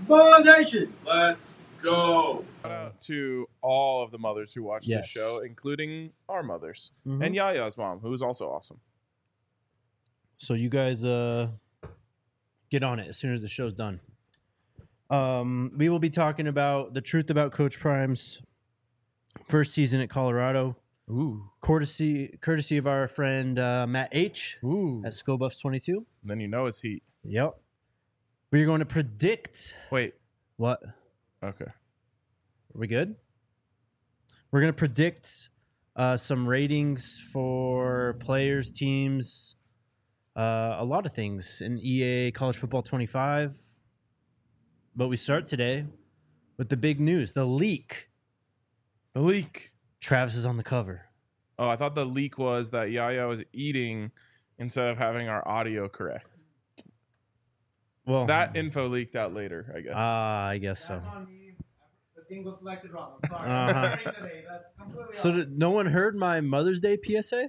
Nation. Let's go. Shout out to all of the mothers who watch this show, including our mothers and Yaya's mom, who is also awesome. So you guys get on it as soon as the show's done. We will be talking about the truth about Coach Prime's first season at Colorado. Ooh. Courtesy of our friend Matt H. At ScoBuffs 22. Then you know it's heat. Yep. We're going to predict. Wait. What? Okay. Are we good? We're going to predict some ratings for players, teams, a lot of things in EA College Football 25. But we start today with the big news, the leak. The leak. Travis is on the cover. Oh, I thought the leak was that Yaya was eating instead of having our audio correct. Well, that info leaked out later, I guess. I guess so. That's on me. The thing was selected wrong. I'm sorry. I'm sorry today. That's completely So no one heard my Mother's Day PSA?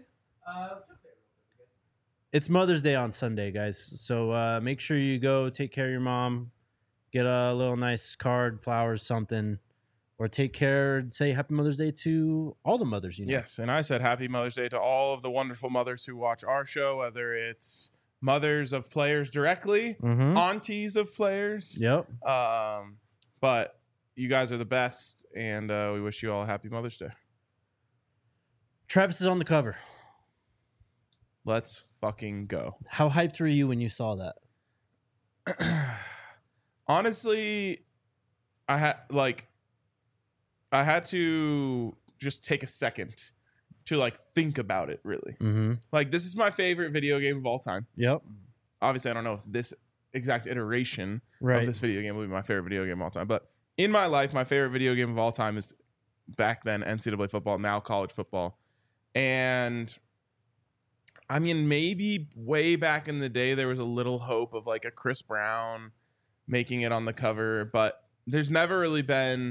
It's Mother's Day on Sunday, guys. So make sure you go take care of your mom. Get a little nice card, flowers, something. Or take care and say Happy Mother's Day to all the mothers, you know. Yes, and I said Happy Mother's Day to all of the wonderful mothers who watch our show, whether it's mothers of players directly, aunties of players. Yep. But you guys are the best, and we wish you all a Happy Mother's Day. Travis is on the cover. Let's fucking go. How hyped were you when you saw that? Honestly, I had to just take a second to think about it, really. Like, this is my favorite video game of all time. Yep. Obviously, I don't know if this exact iteration of this video game will be my favorite video game of all time. But in my life, my favorite video game of all time is back then NCAA football, now college football. And I mean, maybe way back in the day, there was a little hope of a Chris Brown making it on the cover. But there's never really been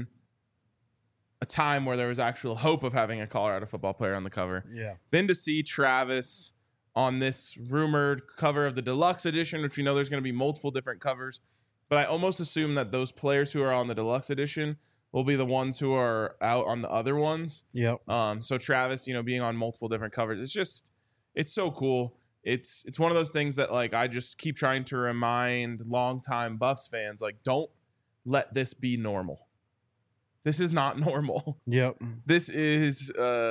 a time where there was actual hope of having a Colorado football player on the cover. Yeah. Then to see Travis on this rumored cover of the deluxe edition, which we know there's going to be multiple different covers, but I almost assume that those players who are on the deluxe edition will be the ones who are out on the other ones. Yep. So Travis, being on multiple different covers, it's so cool. It's one of those things that I just keep trying to remind longtime Buffs fans, don't let this be normal. This is not normal. Yep. This is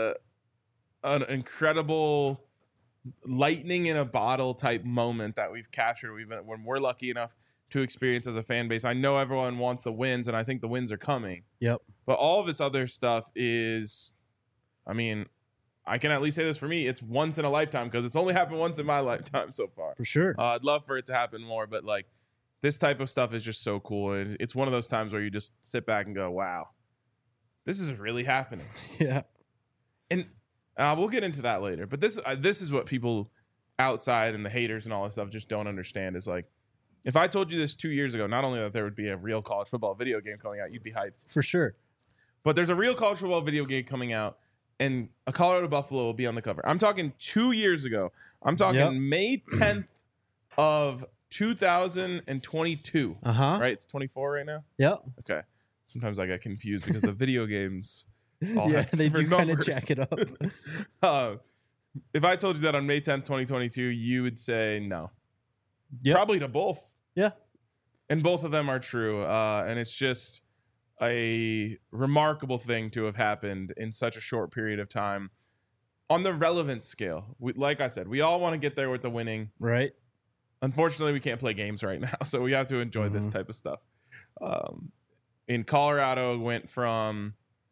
an incredible lightning in a bottle type moment that we've captured. When we're lucky enough to experience as a fan base. I know everyone wants the wins, and I think the wins are coming. Yep. But all of this other stuff is, I mean, I can at least say this for me. It's once in a lifetime because it's only happened once in my lifetime so far. For sure. I'd love for it to happen more, but this type of stuff is just so cool. And it's one of those times where you just sit back and go, wow. This is really happening. Yeah. And we'll get into that later. But this is what people outside and the haters and all this stuff just don't understand is if I told you this 2 years ago, not only that there would be a real college football video game coming out, you'd be hyped. For sure. But there's a real college football video game coming out, and a Colorado Buffalo will be on the cover. I'm talking 2 years ago. I'm talking May 10th of 2022. Right? It's 24 right now? Yep. Okay. Sometimes I get confused because the video games all yeah, have they do different kind of numbers. jack it up. If I told you that on May 10th, 2022, you would say no. Yep. Probably to both. Yeah. And both of them are true. And it's just a remarkable thing to have happened in such a short period of time. On the relevance scale, like I said, we all want to get there with the winning. Right. Unfortunately, we can't play games right now, so we have to enjoy this type of stuff. In Colorado, it went from,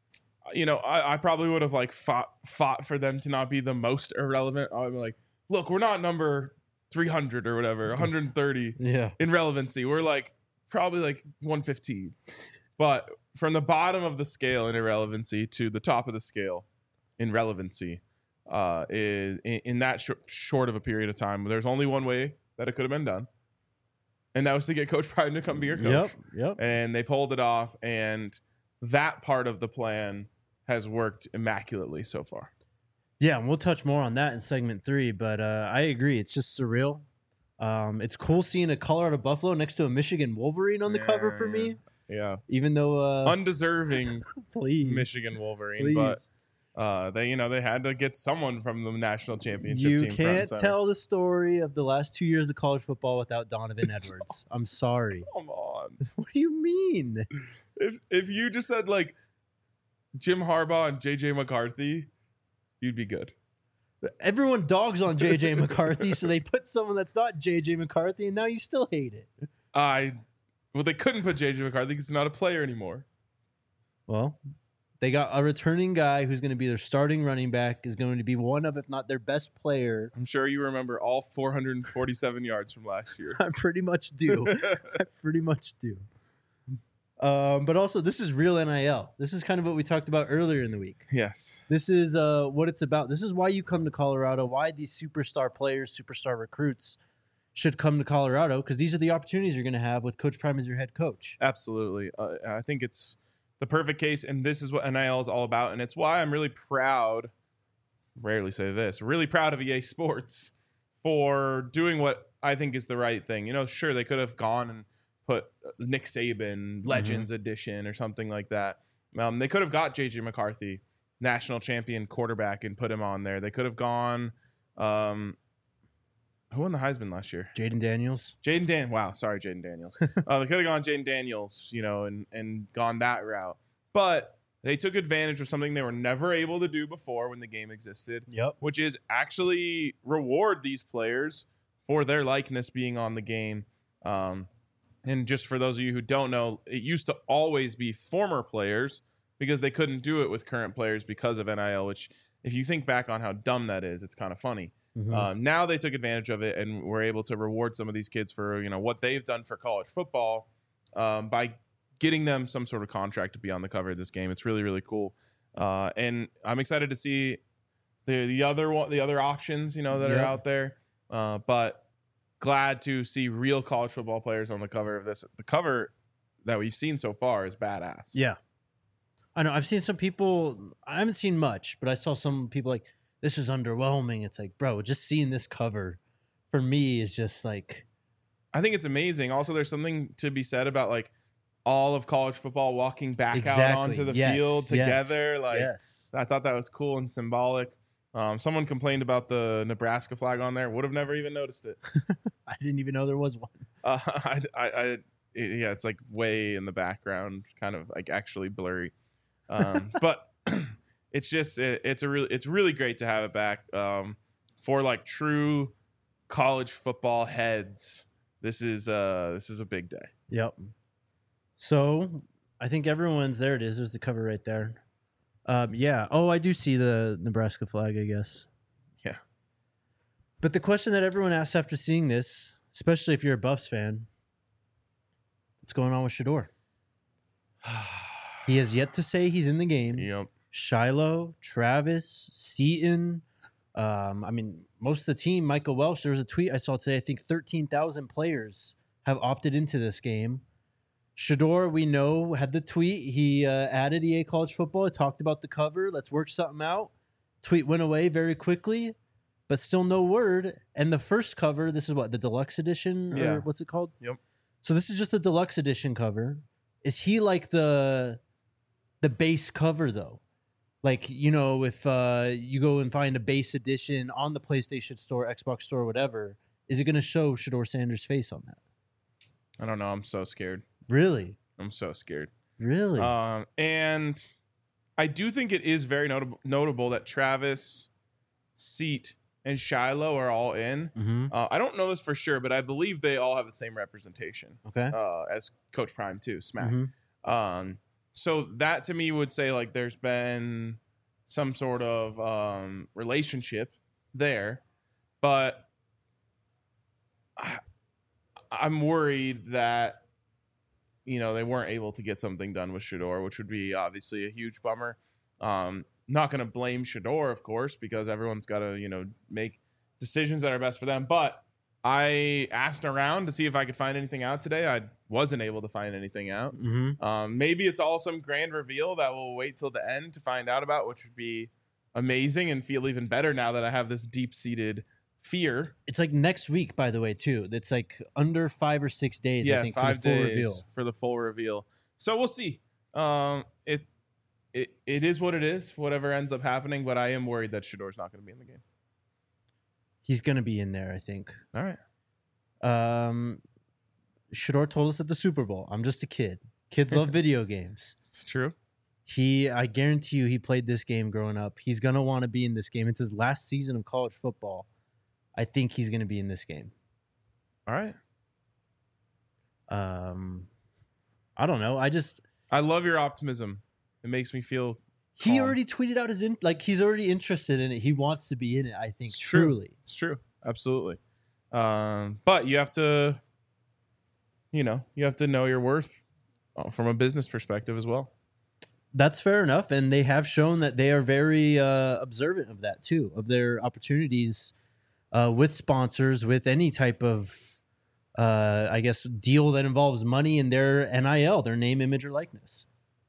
I probably would have fought for them to not be the most irrelevant. I'd be like, look, we're not number 300 or whatever, 130 in relevancy. We're probably 115. But from the bottom of the scale in irrelevancy to the top of the scale in relevancy is in that short of a period of time. There's only one way that it could have been done. And that was to get Coach Prime to come be your coach. Yep. And they pulled it off. And that part of the plan has worked immaculately so far. Yeah, and we'll touch more on that in segment 3. But I agree. It's just surreal. It's cool seeing a Colorado Buffalo next to a Michigan Wolverine on the cover for me. Yeah. Even though Undeserving please, Michigan Wolverine, please. but they had to get someone from the national championship You team. front and can't center. tell the story of the last 2 years of college football without Donovan Edwards. I'm sorry. Come on. What do you mean? If you just said like Jim Harbaugh and JJ McCarthy, you'd be good. Everyone dogs on JJ McCarthy, so they put someone that's not JJ McCarthy, and now you still hate it. Well, they couldn't put JJ McCarthy because he's not a player anymore. Well, they got a returning guy who's going to be their starting running back, is going to be one of, if not their best player. I'm sure you remember all 447 yards from last year. I pretty much do. I pretty much do. But also, this is real NIL. This is kind of what we talked about earlier in the week. Yes. This is what it's about. This is why you come to Colorado, why these superstar players, superstar recruits should come to Colorado, because these are the opportunities you're going to have with Coach Prime as your head coach. Absolutely. I think it's the perfect case, and this is what NIL is all about, and it's why I'm really proud, rarely say this, really proud of EA Sports for doing what I think is the right thing. Sure, they could have gone and put Nick Saban Legends Edition or something like that. They could have got JJ McCarthy, national champion quarterback, and put him on there. They could have gone who won the Heisman last year? Jaden Daniels. Wow, sorry, Jaden Daniels. They could have gone Jaden Daniels, and gone that route. But they took advantage of something they were never able to do before when the game existed. Yep. Which is actually reward these players for their likeness being on the game. And just for those of you who don't know, it used to always be former players because they couldn't do it with current players because of NIL, which if you think back on how dumb that is, it's kind of funny. Now they took advantage of it and were able to reward some of these kids for what they've done for college football by getting them some sort of contract to be on the cover of this game. It's really, really cool. And I'm excited to see the other options, that are out there. But glad to see real college football players on the cover of this. The cover that we've seen so far is badass. Yeah. I know. I've seen some people, I haven't seen much, but I saw some people like, this is underwhelming. It's like, bro, just seeing this cover for me is just like. I think it's amazing. Also, there's something to be said about like all of college football walking back out onto the field together. I thought that was cool and symbolic. Someone complained about the Nebraska flag on there. Would have never even noticed it. I didn't even know there was one. It's like way in the background, kind of like actually blurry. But it's just it's really great to have it back for like true college football heads. This is a big day. Yep. So I think everyone's there. It is. There's the cover right there. Yeah. Oh, I do see the Nebraska flag, I guess. Yeah. But the question that everyone asks after seeing this, especially if you're a Buffs fan, what's going on with Shedeur? He has yet to say he's in the game. Yep. Shiloh, Travis, Seaton. Most of the team, Michael Welsh, there was a tweet I saw today, I think 13,000 players have opted into this game. Shedeur, we know, had the tweet. He added EA College Football. He talked about the cover. Let's work something out. Tweet went away very quickly, but still no word. And the first cover, this is what, the deluxe edition? Yeah. Or what's it called? Yep. So this is just the deluxe edition cover. Is he like the base cover, though? Like, if you go and find a base edition on the PlayStation Store, Xbox Store, whatever, is it going to show Shedeur Sanders' face on that? I don't know. I'm so scared. Really? I'm so scared. Really? And I do think it is very notable that Travis, Seat, and Shiloh are all in. Mm-hmm. I don't know this for sure, but I believe they all have the same representation. Okay. As Coach Prime too, Smack. Mm-hmm. So that to me would say like there's been some sort of relationship there, but I'm worried that they weren't able to get something done with Shedeur, which would be obviously a huge bummer. Not going to blame Shedeur, of course, because everyone's got to make decisions that are best for them. But I asked around to see if I could find anything out today. I wasn't able to find anything out. Mm-hmm. Maybe it's all some grand reveal that we'll wait till the end to find out about, which would be amazing and feel even better now that I have this deep-seated fear. It's like next week, by the way, too. It's like under 5 or 6 days, I think, 5 for the full days reveal. for the full reveal. So we'll see. It is what it is, whatever ends up happening, but I am worried that Shador's not going to be in the game. He's going to be in there, I think. All right. Shador told us at the Super Bowl, I'm just a kid. Kids love video games. It's true. I guarantee you he played this game growing up. He's going to want to be in this game. It's his last season of college football. I think he's going to be in this game. All right. I don't know. I love your optimism. It makes me feel He calm. already tweeted out he's already interested in it. He wants to be in it, I think, It's true. truly. It's true. Absolutely. But you have to, you have to know your worth from a business perspective as well. That's fair enough. And they have shown that they are very observant of that, too, of their opportunities with sponsors, with any type of, deal that involves money in their NIL, their name, image, or likeness.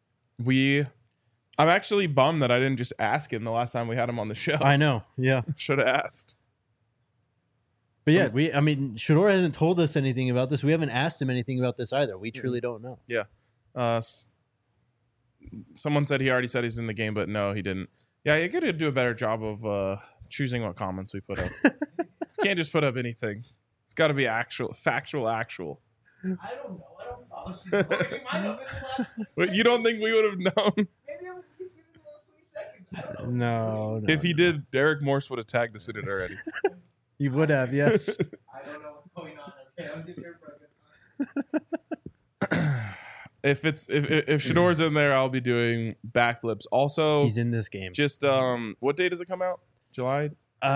I'm actually bummed that I didn't just ask him the last time we had him on the show. I know. Yeah. Should have asked. But Shador hasn't told us anything about this. We haven't asked him anything about this either. We truly don't know. Yeah. Someone said he already said he's in the game, but no, he didn't. Yeah, you got to do a better job of choosing what comments we put up. Can't just put up anything. It's got to be factual. I don't know. I don't follow Shador. He might have been the last 20 But you don't think we would have known? Maybe I would keep giving the last 20 seconds. I don't know. No. If he did, Derek Morse would have tagged us in it already. He would have, yes. I don't know what's going on. Okay, I'm just here for a good time. If Shador's in there, I'll be doing backflips. Also, He's in this game. just what day does it come out? July?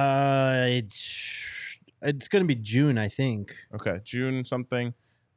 It's going to be June, I think. Okay, June something.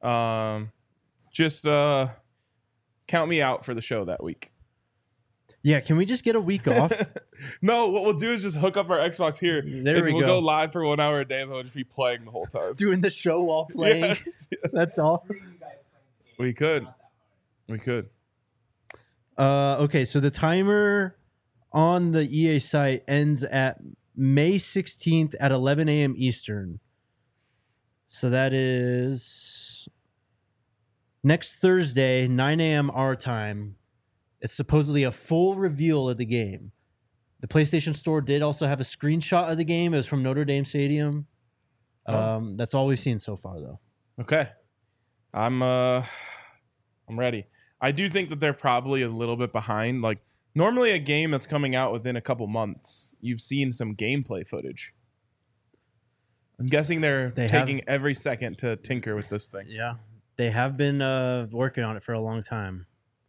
Just count me out for the show that week. Yeah, can we just get a week off? No, what we'll do is just hook up our Xbox here. There and we we'll go. go live for 1 hour a day, and we'll just be playing the whole time. Doing the show while playing. Yes. That's all. Three of you guys playing the game. We could. Not that hard. We could. Okay, so the timer on the EA site ends at May 16th at 11 a.m. Eastern. So that is next Thursday, 9 a.m. our time. It's supposedly a full reveal of the game. The PlayStation Store did also have a screenshot of the game. It was from Notre Dame Stadium. That's all we've seen so far, though. Okay. I'm ready. I do think that they're probably a little bit behind. Like, normally a game that's coming out within a couple months, you've seen some gameplay footage. I'm guessing they're taking every second to tinker with this thing. Yeah, they have been working on it for a long time.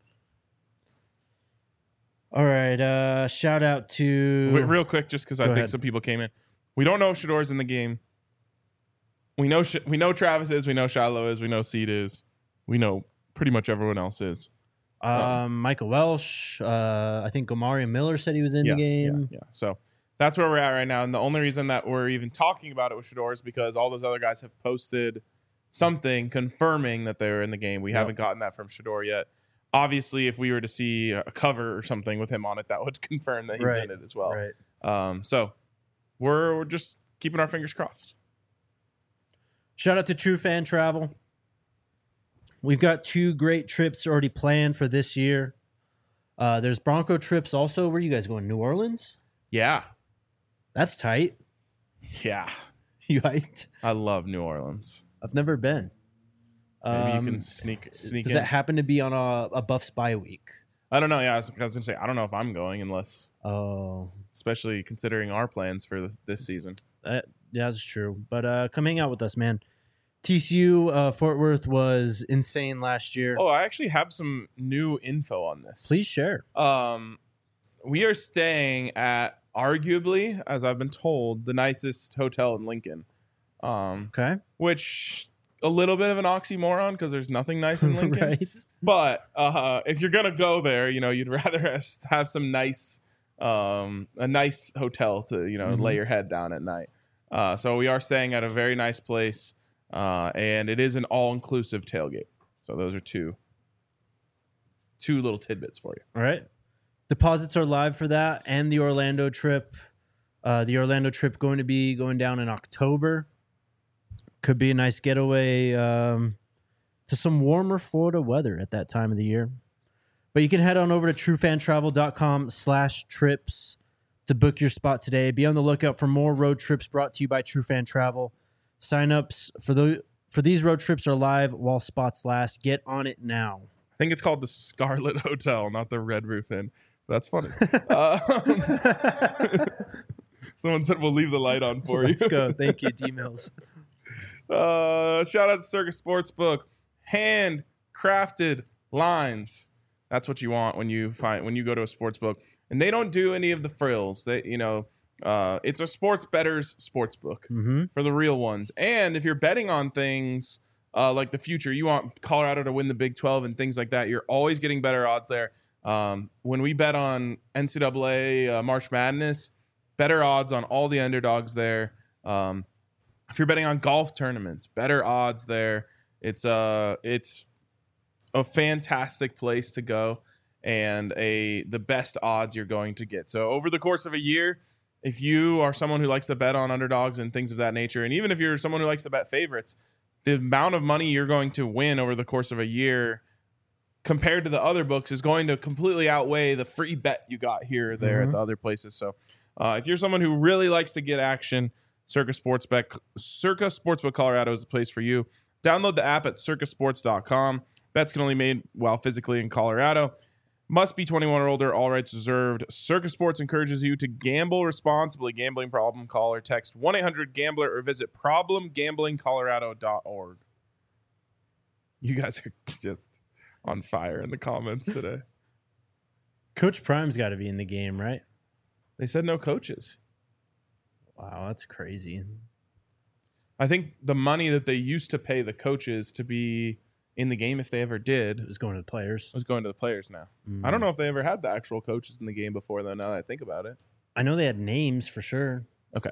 All right, shout out to... Wait, real quick, just because I think ahead. some people came in. We don't know if Shador's in the game. We know Travis is. We know Shiloh is. We know Seed is. We know pretty much everyone else is. Michael Welsh. I think Omari Miller said he was in the game. Yeah. So that's where we're at right now. And the only reason that we're even talking about it with Shador is because all those other guys have posted something confirming that they were in the game. We haven't gotten that from Shador yet. Obviously, if we were to see a cover or something with him on it, that would confirm that he's in it as well. Right. So we're just keeping our fingers crossed. Shout out to True Fan Travel. We've got 2 great trips already planned for this year. There's Bronco trips also. Where are you guys going? New Orleans? Yeah. That's tight. Yeah. You hyped? I love New Orleans. I've never been. Maybe you can sneak Does in. that happen to be on a Buffs bye week? I don't know. Yeah, I was going to say, I don't know if I'm going unless, Oh, especially considering our plans for this season. yeah, that's true. But come hang out with us, man. TCU Fort Worth was insane last year. Oh, I actually have some new info on this. Please share. We are staying at arguably, as I've been told, the nicest hotel in Lincoln. Okay. Which a little bit of an oxymoron because there's nothing nice in Lincoln. Right. But if you're gonna go there, you'd rather have some nice, a nice hotel to lay your head down at night. So we are staying at a very nice place, and it is an all-inclusive tailgate. So those are two little tidbits for you. All right. Deposits are live for that and the Orlando trip. The Orlando trip going to be going down in October. Could be a nice getaway to some warmer Florida weather at that time of the year. But you can head on over to truefantravel.com/trips to book your spot today. Be on the lookout for more road trips brought to you by TrueFan Travel. Sign-ups for these road trips are live while spots last. Get on it now. I think it's called the Scarlet Hotel, not the Red Roof Inn. That's funny. Someone said we'll leave the light on for you. Let's go. Thank you, D-Mills. Shout out to Circus Sportsbook. Handcrafted lines. That's what you want when you go to a sportsbook. And they don't do any of the frills. It's a sports bettor's sportsbook for the real ones. And if you're betting on things like the future, you want Colorado to win the Big 12 and things like that, you're always getting better odds there. When we bet on NCAA March Madness, better odds on all the underdogs there. If you're betting on golf tournaments, better odds there. It's a fantastic place to go and the best odds you're going to get. So over the course of a year, if you are someone who likes to bet on underdogs and things of that nature, and even if you're someone who likes to bet favorites, the amount of money you're going to win over the course of a year compared to the other books is going to completely outweigh the free bet you got here or there at the other places. So if you're someone who really likes to get action, Circa Sportsbook Colorado is the place for you. Download the app at circasports.com. Bets can only be made while physically in Colorado. Must be 21 or older. All rights reserved. Circa Sports encourages you to gamble responsibly. Gambling problem? Call or text 1-800-GAMBLER or visit problemgamblingcolorado.org. You guys are just on fire in the comments today. Coach Prime's got to be in the game, right? They said no coaches. Wow, that's crazy. I think the money that they used to pay the coaches to be in the game, if they ever did, It was going to the players. was going to the players now. I don't know if they ever had the actual coaches in the game before, though, now that I think about it. I know they had names for sure. Okay.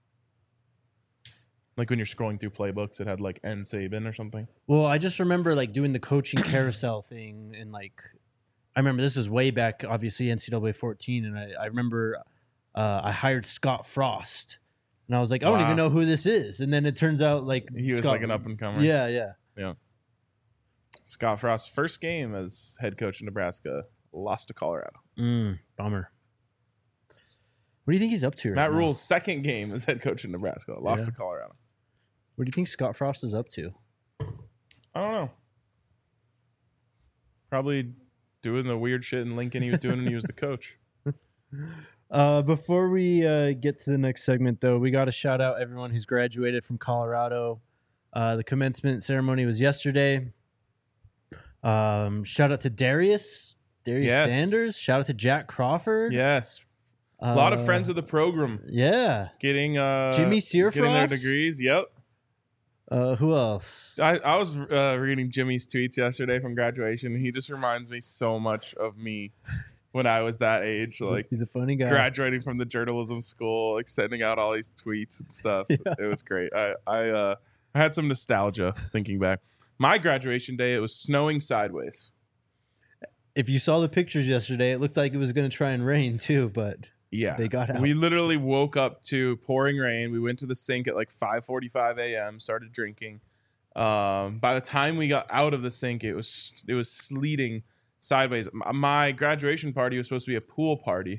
Like when you're scrolling through playbooks, it had like N. Saban or something. Well, I just remember like doing the coaching carousel thing, and like I remember this is way back, obviously NCAA 14, and I remember I hired Scott Frost, and I was like, I don't Wow. even know who this is, and then it turns out like He was Scott- like an up-and-comer. Yeah. Scott Frost's first game as head coach in Nebraska lost to Colorado. Bummer. What do you think he's up to? Right Matt now? Rule's second game as head coach in Nebraska lost Yeah. to Colorado. What do you think Scott Frost is up to? I don't know. Probably doing the weird shit in Lincoln he was doing when he was the coach. Before we get to the next segment, though, we got to shout out everyone who's graduated from Colorado. The commencement ceremony was yesterday. Shout out to Darius Yes. Sanders. Shout out to Jack Crawford. Yes. A lot of friends of the program Yeah. getting Jimmy Searfrost? getting their degrees. Yep. Who else? I was reading Jimmy's tweets yesterday from graduation. He just reminds me so much of me when I was that age, like He's a funny guy. graduating from the journalism school, like sending out all these tweets and stuff. Yeah. It was great. I had some nostalgia thinking back. My graduation day, it was snowing sideways. If you saw the pictures yesterday, it looked like it was going to try and rain too, but Yeah, they got out. We literally woke up to pouring rain. We went to the sink at like 5:45 a.m. Started drinking. By the time we got out of the sink, it was sleeting sideways. My graduation party was supposed to be a pool party,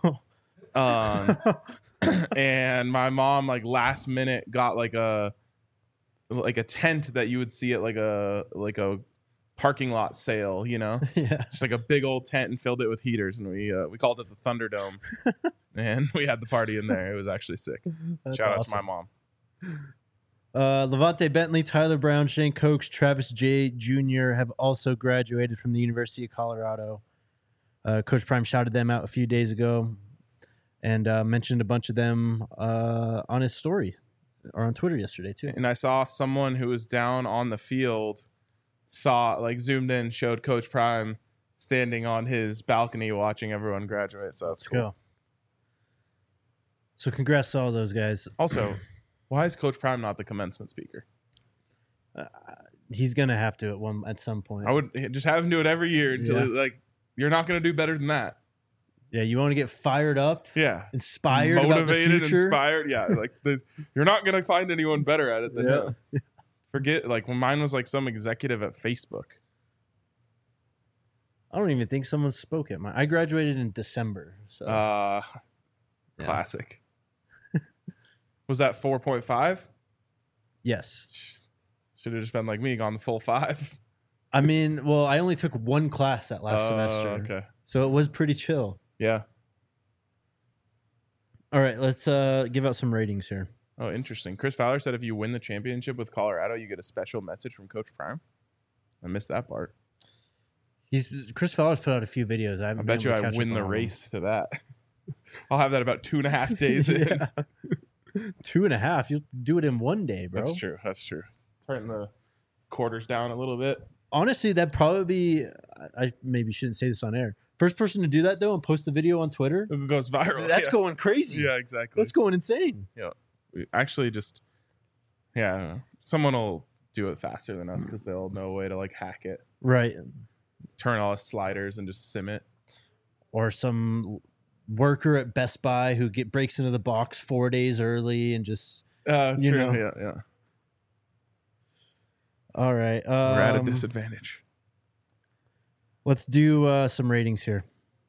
and my mom like last minute got like a tent that you would see at like a parking lot sale, you know. Yeah. Just like a big old tent and filled it with heaters, and we called it the Thunderdome, and we had the party in there. It was actually sick. That's Shout out to awesome. my mom. Levante Bentley, Tyler Brown, Shane Cokes, Travis J. Jr. have also graduated from the University of Colorado. Coach Prime shouted them out a few days ago and mentioned a bunch of them on his story or on Twitter yesterday too. And I saw someone who was down on the field, zoomed in, showed Coach Prime standing on his balcony watching everyone graduate. So that's Let's cool. go. So congrats to all those guys. Also, why is Coach Prime not the commencement speaker? He's gonna have to at some point. I would just have him do it every year until Yeah. you're not going to do better than that. Yeah, you want to get fired up, Yeah. inspired about the Motivated, future. inspired. Yeah. Like you're not going to find anyone better at it than Yeah. him. Forget, like when mine was like some executive at Facebook. I don't even think someone spoke at mine. I graduated in December. So Yeah. Classic. Was that 4.5? yes. Should have just been like me, gone the full 5. I mean, well, I only took one class that last semester. Okay. So it was pretty chill. Yeah. All right, let's give out some ratings here. Oh, interesting. Chris Fowler said if you win the championship with Colorado, you get a special message from Coach Prime. I missed that part. Chris Fowler's put out a few videos. I bet you I win the race to that. I'll have that about 2.5 days in. Yeah. 2.5. You'll do it in one day, bro. That's true. That's true. Turn the quarters down a little bit. Honestly, that'd probably be. I maybe shouldn't say this on air. First person to do that though and post the video on Twitter. It goes viral. That's yeah. going crazy. Yeah, exactly. That's going insane. Yeah. We actually just, yeah, someone will do it faster than us because they'll know a way to like hack it. Right. Turn all the sliders and just sim it. Or some worker at Best Buy who breaks into the box 4 days early and just True. You know. Yeah. all right. We're at a disadvantage. Let's do some ratings here.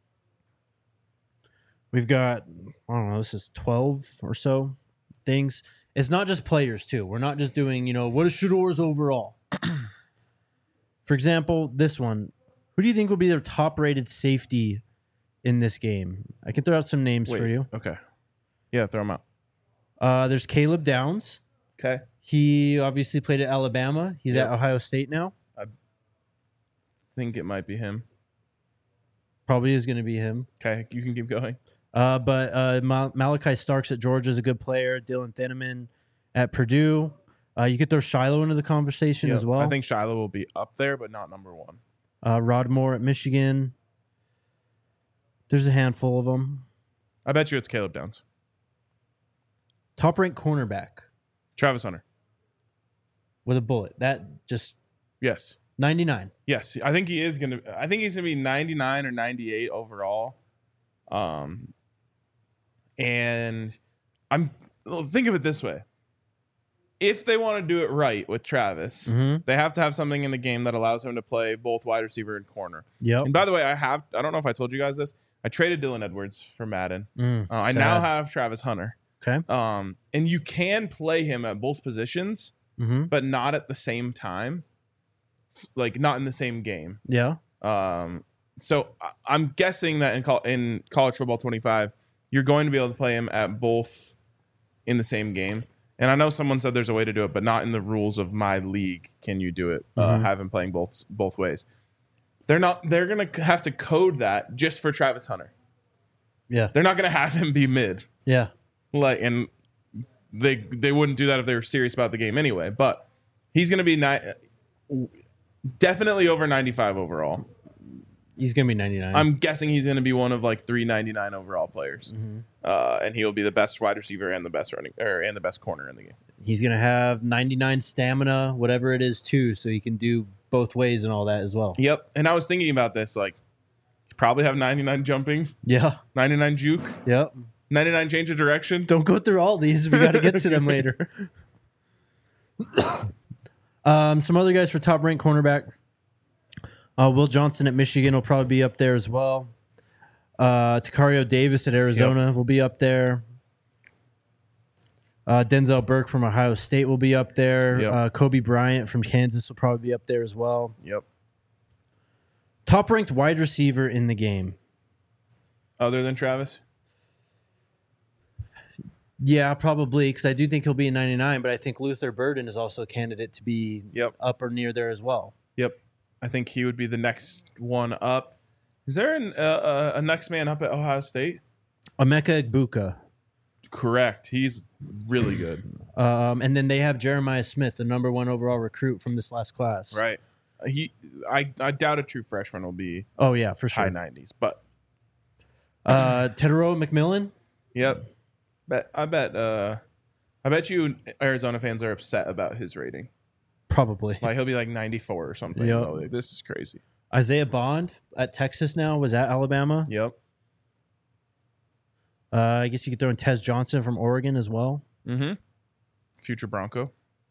We've got, I don't know, this is 12 or so things. It's not just players, too. We're not just doing, what is Shador's overall? For example, this one. Who do you think will be their top-rated safety in this game? I can throw out some names for you. Okay. Yeah, throw them out. There's Caleb Downs. Okay. He obviously played at Alabama. He's Yep. at Ohio State now. I think it might be him. Probably is going to be him. Okay, you can keep going. But Malachi Starks at Georgia is a good player. Dylan Thineman at Purdue. You could throw Shiloh into the conversation Yep. as well. I think Shiloh will be up there, but not number 1. Rod Moore at Michigan. There's a handful of them. I bet you it's Caleb Downs. Top-ranked cornerback Travis Hunter. with a bullet. That just Yes. 99. Yes. I think he's going to be 99 or 98 overall. And think of it this way. If they want to do it right with Travis, they have to have something in the game that allows him to play both wide receiver and corner. Yep. And by the way, I don't know if I told you guys this. I traded Dylan Edwards for Madden. I Sad. now have Travis Hunter. Okay. And you can play him at both positions, but not at the same time. Like not in the same game. Yeah. So I'm guessing that in college football 25, you're going to be able to play him at both in the same game. And I know someone said there's a way to do it, but not in the rules of my league. Can you do it? Have him playing both ways. They're going to have to code that just for Travis Hunter. Yeah. They're not going to have him be mid. Yeah. And they wouldn't do that if they were serious about the game anyway. But he's going to be definitely over 95 overall. He's going to be 99. I'm guessing he's going to be one of like 399 overall players, and he will be the best wide receiver and the best and the best corner in the game. He's going to have 99 stamina, whatever it is, too, so he can do both ways and all that as well. Yep. And I was thinking about this, like, you probably have 99 jumping, Yeah. 99 juke, Yep. 99 change of direction. Don't go through all these. We got to get to them later. Some other guys for top-ranked cornerback. Will Johnson at Michigan will probably be up there as well. Takario Davis at Arizona will be up there. Denzel Burke from Ohio State will be up there. Yep. Kobe Bryant from Kansas will probably be up there as well. Yep. Top-ranked wide receiver in the game. Other than Travis? Yeah, probably, because I do think he'll be in 99, but I think Luther Burden is also a candidate to be up or near there as well. Yep. I think he would be the next one up. Is there a next man up at Ohio State? Emeka Egbuka. Correct. He's really good. And then they have Jeremiah Smith, the number 1 overall recruit from this last class. Right. I doubt a true freshman will be Oh, yeah, for sure. high 90s, but Tedero McMillan. yep. I bet you Arizona fans are upset about his rating. Probably. Like he'll be like 94 or something. Yep. Like, this is crazy. Isaiah Bond at Texas now, was at Alabama. Yep. I guess you could throw in Tez Johnson from Oregon as well. Mm-hmm. Future Bronco.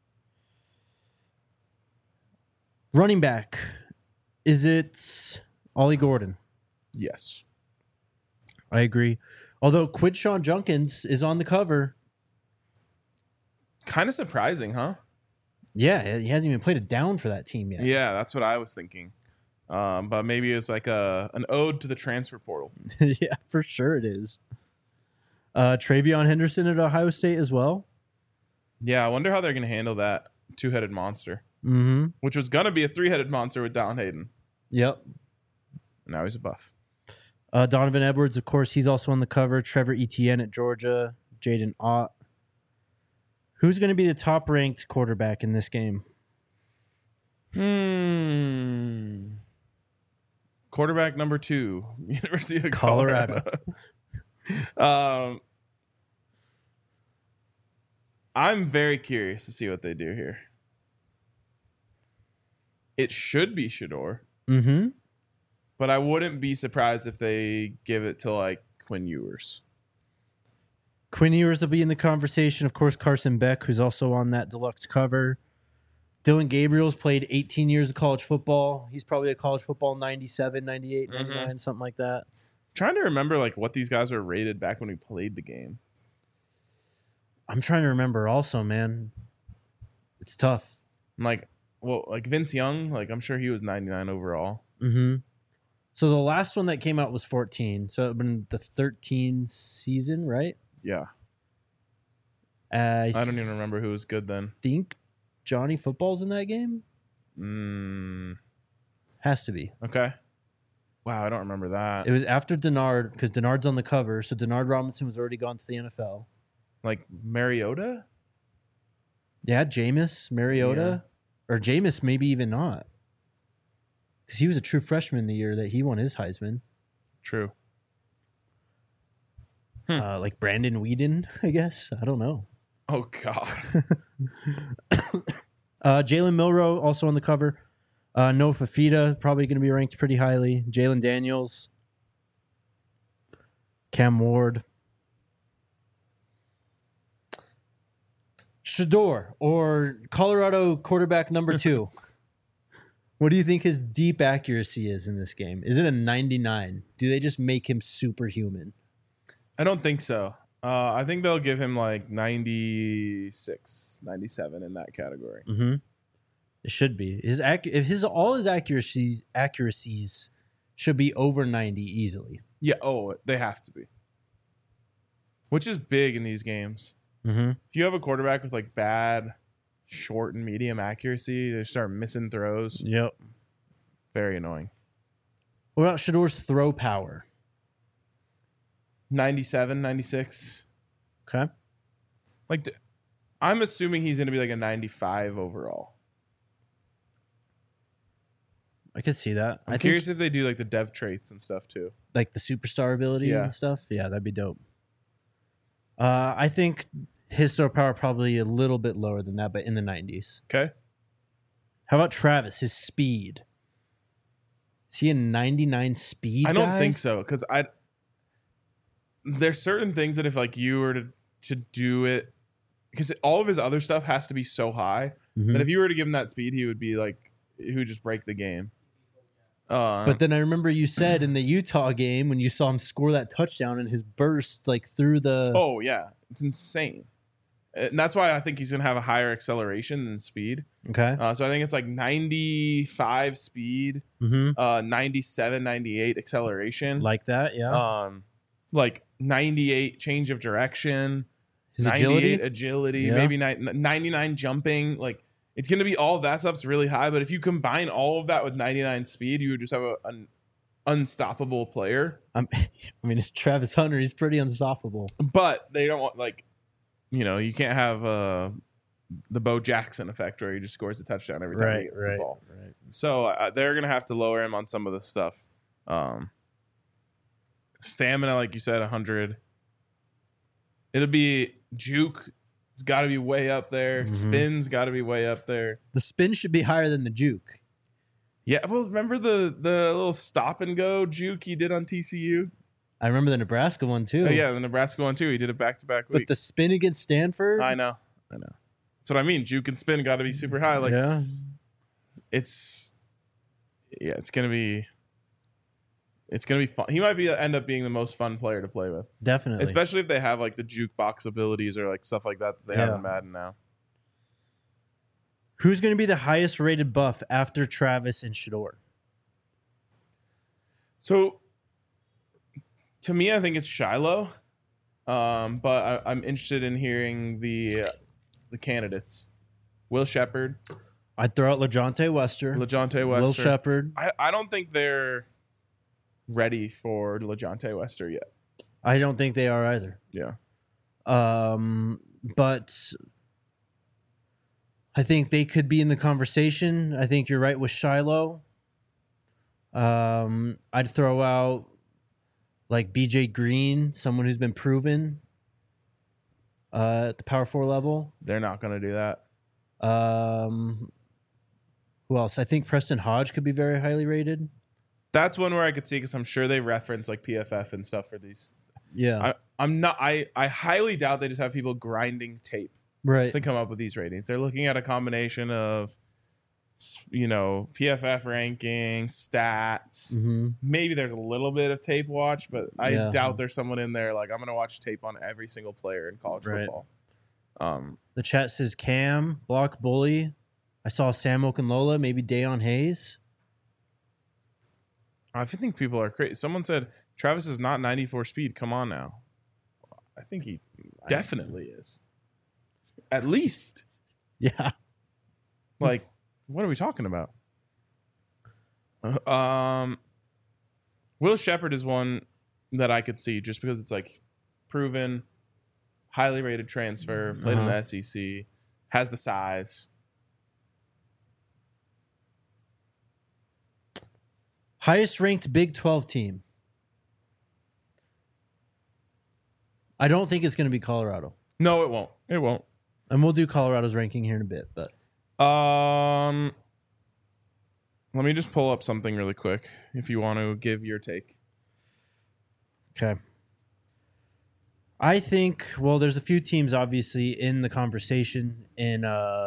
Running back. Is it Ollie Gordon? Yes. I agree. Although Quidshawn Junkins is on the cover. Kind of surprising, huh? Yeah, he hasn't even played it down for that team yet. Yeah, that's what I was thinking. But maybe it's like an ode to the transfer portal. Yeah, for sure it is. Travion Henderson at Ohio State as well. Yeah, I wonder how they're going to handle that two-headed monster, Mm-hmm. which was going to be a three-headed monster with Don Hayden. Yep. Now he's a buff. Donovan Edwards, of course, he's also on the cover. Trevor Etienne at Georgia. Jaden Ott. Who's going to be the top-ranked quarterback in this game? Quarterback number 2, University of Colorado. I'm very curious to see what they do here. It should be Shador, Mm-hmm. but I wouldn't be surprised if they give it to like Quinn Ewers. Quinn Ewers will be in the conversation. Of course, Carson Beck, who's also on that deluxe cover. Dylan Gabriel's played 18 years of college football. He's probably a college football 97, 98, 99, something like that. Trying to remember like what these guys were rated back when we played the game. I'm trying to remember also, man. It's tough. I'm like, well, like Vince Young, like I'm sure he was 99 overall. Mm-hmm. So the last one that came out was 14. So it would have been the 13 season, right? Yeah. I I don't even remember who was good then. think Johnny Football's in that game. Has to be. Okay. Wow, I don't remember that. It was after Denard because Denard's on the cover. So Denard Robinson was already gone to the NFL. Like Mariota? Yeah, Jameis, Mariota. Or Jameis, maybe even not. Because he was a true freshman the year that he won his Heisman. True. Like Brandon Whedon, I guess. I don't know. Oh, God. Jalen Milroe also on the cover. Noah Fafita probably going to be ranked pretty highly. Jalen Daniels. Cam Ward. Shador, or Colorado quarterback number 2. What do you think his deep accuracy is in this game? Is it a 99? Do they just make him superhuman? I don't think so. I think they'll give him like 96, 97 in that category. Mm-hmm. It should be. All his accuracies should be over 90 easily. Yeah. Oh, they have to be. Which is big in these games. Mm-hmm. If you have a quarterback with like bad short and medium accuracy, they start missing throws. Yep. Very annoying. What about Shador's throw power? 97, 96. Okay. Like, I'm assuming he's going to be like a 95 overall. I could see that. I'm curious if they do like the dev traits and stuff too. Like the superstar ability Yeah. and stuff. Yeah, that'd be dope. I think his throw power probably a little bit lower than that, but in the 90s. Okay. How about Travis? His speed. Is he a 99 speed? I don't guy? think so because there's certain things that if like you were to do it, because all of his other stuff has to be so high Mhm. that if you were to give him that speed, he would be like he would just break the game. But then I remember you said in the Utah game when you saw him score that touchdown and his burst like through the. oh yeah, it's insane, and that's why I think he's gonna have a higher acceleration than speed. Okay. So I think it's like 95 speed, Mm-hmm. 97, 98 acceleration, Like that, yeah. like 98 change of direction, His 98 agility. agility, Yeah. maybe 99 jumping. Like it's going to be all of that stuff's really high. But if you combine all of that with 99 speed, you would just have an unstoppable player. I mean, it's Travis Hunter. He's pretty unstoppable. But they don't want you can't have the Bo Jackson effect where he just scores a touchdown every time he gets the ball. Right. So they're going to have to lower him on some of the stuff. Stamina, like you said, 100. It'll be juke. It's got to be way up there. Mhm. Spin's got to be way up there. The spin should be higher than the juke. Yeah, well, remember the little stop and go juke he did on TCU? I remember the Nebraska one too. Oh, yeah, the Nebraska one too. He did it back-to-back But weeks. the spin against Stanford. I know. That's what I mean. Juke and spin got to be super high. Like yeah. it's gonna be fun. He might end up being the most fun player to play with, Definitely. especially if they have like the jukebox abilities or like stuff like that they have in Madden now. Who's going to be the highest rated buff after Travis and Shador? So, to me, I think it's Shiloh, but I'm interested in hearing the candidates. Will Shepard, I'd throw out LeJohntay Wester. LeJohntay Wester. Will Shepard. I don't think they're ready for LeJohntay Wester yet. I don't think they are either. Yeah. But I think they could be in the conversation. I think you're right with Shiloh. I'd throw out like BJ Green, someone who's been proven at the Power 4 level. They're not going to do that. Who else? I think Preston Hodge could be very highly rated. That's one where I could see because I'm sure they reference like PFF and stuff for these. Yeah. I highly doubt they just have people grinding tape Right. to come up with these ratings. They're looking at a combination of, PFF rankings, stats. Mm-hmm. Maybe there's a little bit of tape watch, but I Yeah. doubt there's someone in there like I'm going to watch tape on every single player in college Right. football. The chat says Cam, Block Bully. I saw Sam Okunlola, maybe Dayon Hayes. I think people are crazy. Someone said Travis is not 94 speed. Come on now. I think he definitely is. At least. Yeah. Like, what are we talking about? Will Shepard is one that I could see just because it's like proven, highly rated transfer, played in the SEC, has the size. Highest ranked Big 12 team. I don't think it's going to be Colorado. No, it won't. It won't. And we'll do Colorado's ranking here in a bit, but let me just pull up something really quick if you want to give your take. okay. I think, well, there's a few teams obviously in the conversation in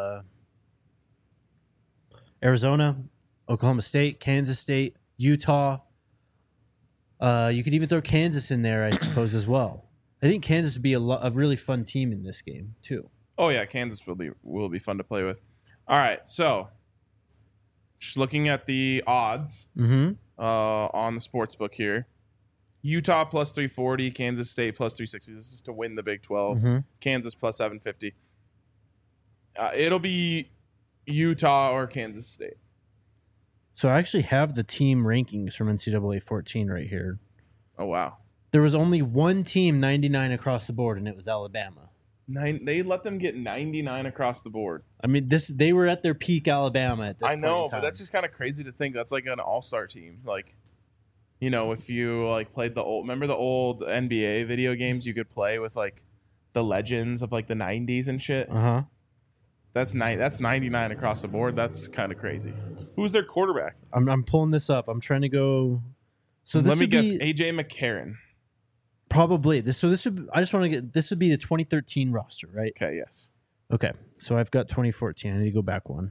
Arizona, Oklahoma State, Kansas State, Utah. You could even throw Kansas in there, I suppose, as well. I think Kansas would be a really fun team in this game too. Oh yeah, Kansas will be fun to play with. All right, so just looking at the odds on the sports book here. Utah plus 340, Kansas State plus 360. This is to win the Big 12. Kansas plus 750. It'll be Utah or Kansas State. So I actually have the team rankings from NCAA 14 right here. Oh wow. There was only one team 99 across the board, and it was Alabama. They let them get 99 across the board. I mean, they were at their peak Alabama at this point in I know, time. but that's just kind of crazy to think. That's like an all-star team. Like, if you like played remember the old NBA video games you could play with like the legends of like the 90s and shit? Uh-huh. That's 99 across the board. That's kind of crazy. Who's their quarterback? I'm pulling this up. I'm trying to go. So this Let me would guess, be AJ McCarron. probably this. So this would. I just want to get. This would be the 2013 roster, right? Okay, yes. Okay. So I've got 2014. I need to go back one.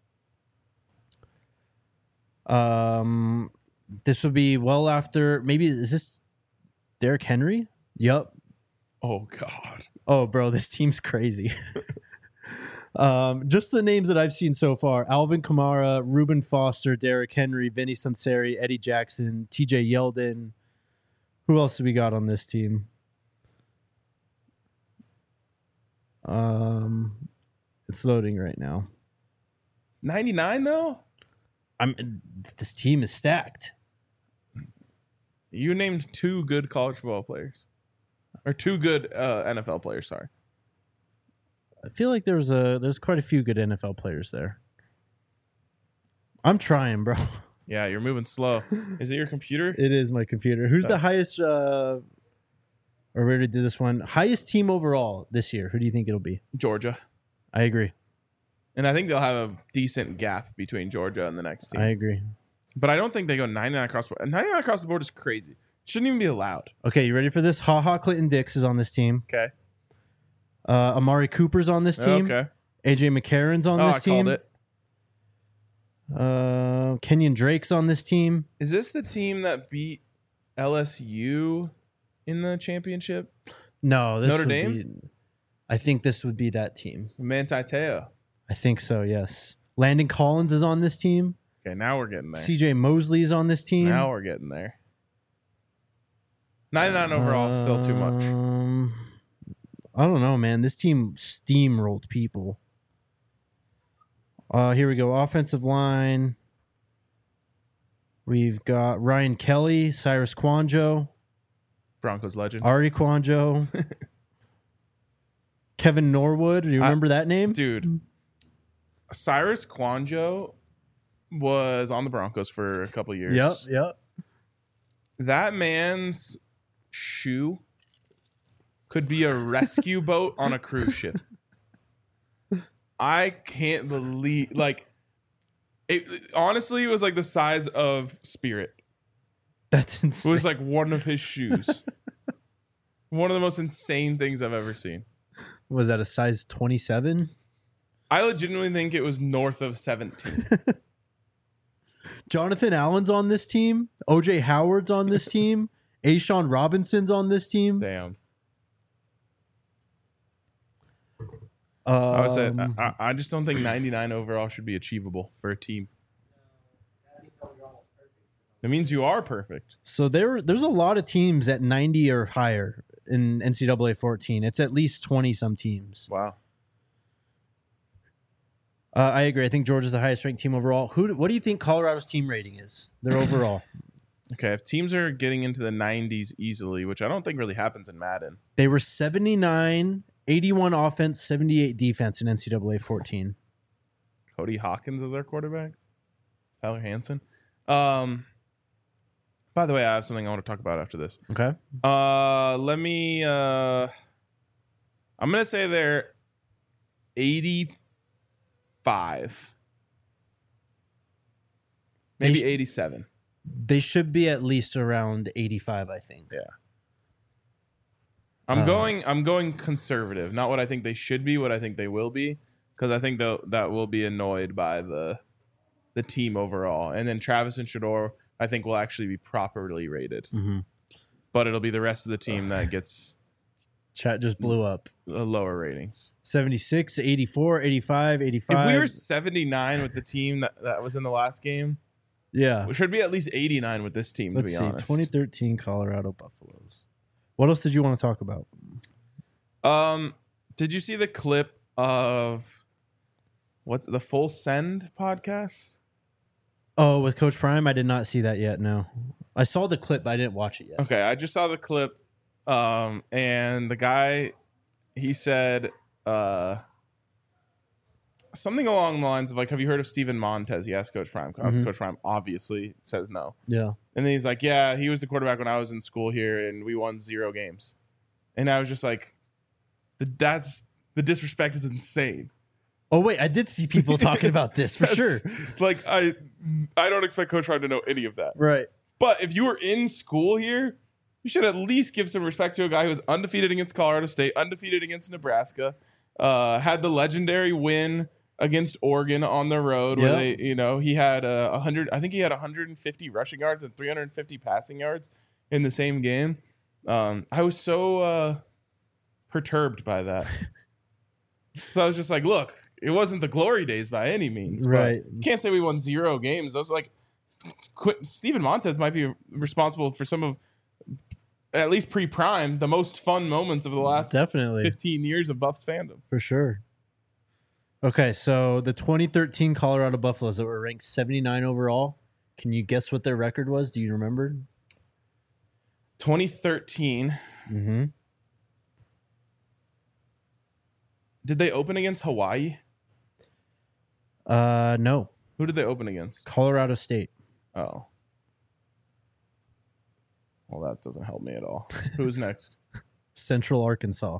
This would be well after. Maybe is this Derrick Henry? Yep. Oh God. Oh, bro, this team's crazy. Just the names that I've seen so far: Alvin Kamara, Reuben Foster, Derrick Henry, Vinny Sunseri, Eddie Jackson, T.J. Yeldon. Who else do we got on this team? It's loading right now. 99 though? This team is stacked. You named two good college football players. Or two good NFL players, sorry. I feel like there's quite a few good NFL players there. I'm trying, bro. Yeah, you're moving slow. Is it your computer? It is my computer. Who's the highest? Or we already did this one. Highest team overall this year. Who do you think it'll be? Georgia. I agree. And I think they'll have a decent gap between Georgia and the next team. I agree. But I don't think they go 99 across the board. 99 across the board is crazy. Shouldn't even be allowed. Okay, you ready for this? Ha Ha Clinton Dix is on this team. Okay. Amari Cooper's on this team. Okay. AJ McCarron's on Oh, this I team. called it. Kenyon Drake's on this team. Is this the team that beat LSU in the championship? No, this Notre would Dame? be. I think this would be that team. Manti Te'o. I think so. Yes. Landon Collins is on this team. Okay, now we're getting there. CJ Mosley is on this team. Now we're getting there. 99 overall is still too much. I don't know, man. This team steamrolled people. Here we go. Offensive line. We've got Ryan Kelly, Cyrus Kwanjo, Broncos legend. Ari Kwanjo, Kevin Norwood. Do you remember that name? Dude, Cyrus Kwanjo was on the Broncos for a couple years. Yep. That man's shoe could be a rescue boat on a cruise ship. I can't believe, like, it honestly it was like the size of Spirit. That's It insane. was like one of his shoes. One of the most insane things I've ever seen. Was that a size 27? I legitimately think it was north of 17. Jonathan Allen's on this team. OJ Howard's on this team. Ashawn Robinson's on this team. Damn. I would say I just don't think 99 overall should be achievable for a team. It means you are perfect. So there's a lot of teams at 90 or higher in NCAA 14. It's at least 20 some teams. Wow. I agree. I think Georgia's the highest ranked team overall. What do you think Colorado's team rating is? Their overall. Okay, if teams are getting into the 90s easily, which I don't think really happens in Madden. They were 79, 81 offense, 78 defense in NCAA 14. Cody Hawkins is our quarterback. Tyler Hansen. By the way, I have something I want to talk about after this. Okay. I'm gonna say they're 85. Maybe 87. They should be at least around 85, I think. Yeah. I'm going conservative, not what I think they should be, what I think they will be, because I think that will be annoyed by the team overall. And then Travis and Shador, I think, will actually be properly rated. Mm-hmm. But it'll be the rest of the team that gets Chat just blew up. lower ratings. 76, 84, 85, 85. If we were 79 with the team that was in the last game, yeah. we should be at least 89 with this team, Let's to be see. honest. 2013 Colorado Buffaloes. What else did you want to talk about? Did you see the clip of what's the Full Send podcast? Oh, with Coach Prime? I did not see that yet, no. I saw the clip, but I didn't watch it yet. Okay, I just saw the clip, and the guy, he said something along the lines of, like, have you heard of Steven Montez? He asked Coach Prime. Mhm. Coach Prime obviously says no. Yeah. And then he's like, yeah, he was the quarterback when I was in school here, and we won 0 games. And I was just like, the disrespect is insane. Oh, wait, I did see people talking about this for sure. Like, I don't expect Coach Prime to know any of that. Right. But if you were in school here, you should at least give some respect to a guy who was undefeated against Colorado State, undefeated against Nebraska, had the legendary win against Oregon on the road where they, he had 100. I think he had 150 rushing yards and 350 passing yards in the same game. I was so perturbed by that. So I was just like, look, it wasn't the glory days by any means. Right. But you can't say we won 0 games. Those like Steven Montez might be responsible for some of, at least pre-prime, the most fun moments of the last Definitely 15 years of Buffs fandom. for sure. Okay, so the 2013 Colorado Buffaloes that were ranked 79 overall. Can you guess what their record was? Do you remember? 2013. Mm-hmm. Did they open against Hawaii? No. Who did they open against? Colorado State. Oh. Well, that doesn't help me at all. Who's next? Central Arkansas.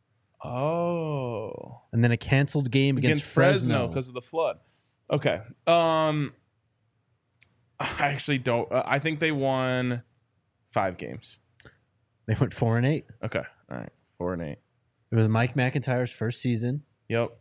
Oh. And then a canceled game against Fresno because of the flood. Okay. I actually don't. I think they won 5 games? They went 4-8. Okay. All right. 4-8. It was Mike McIntyre's first season. Yep.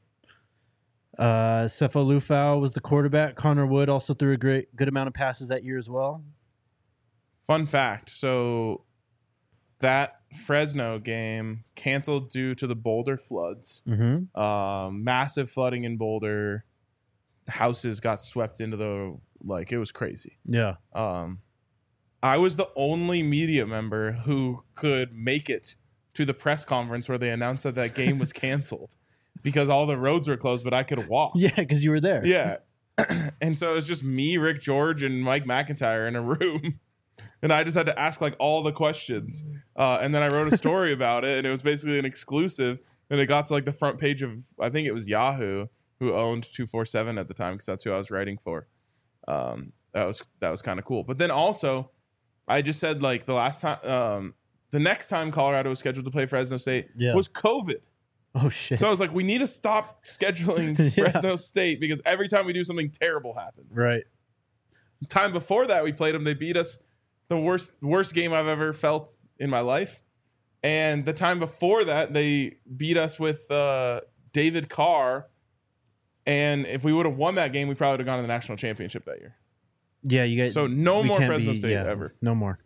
Sefo Lufau was the quarterback. Connor Wood also threw a good amount of passes that year as well. Fun fact. So that Fresno game canceled due to the Boulder floods. Mm-hmm. Massive flooding in Boulder. Houses got swept into it was crazy. Yeah. I was the only media member who could make it to the press conference where they announced that game was canceled because all the roads were closed, but I could walk. Yeah, because you were there. Yeah. And so it was just me, Rick George, and Mike McIntyre in a room. And I just had to ask all the questions. And then I wrote a story about it, and it was basically an exclusive. And it got to the front page of, I think it was Yahoo, who owned 247 at the time, because that's who I was writing for. That was kind of cool. But then also, I just said the next time Colorado was scheduled to play Fresno State was COVID. Oh shit. So I was like, we need to stop scheduling Fresno State because every time we do something terrible happens. Right. Time before that we played them, they beat us. The worst game I've ever felt in my life. And the time before that, they beat us with David Carr. And if we would have won that game, we probably would have gone to the national championship that year. Yeah, you guys. So no more Fresno State ever. No more.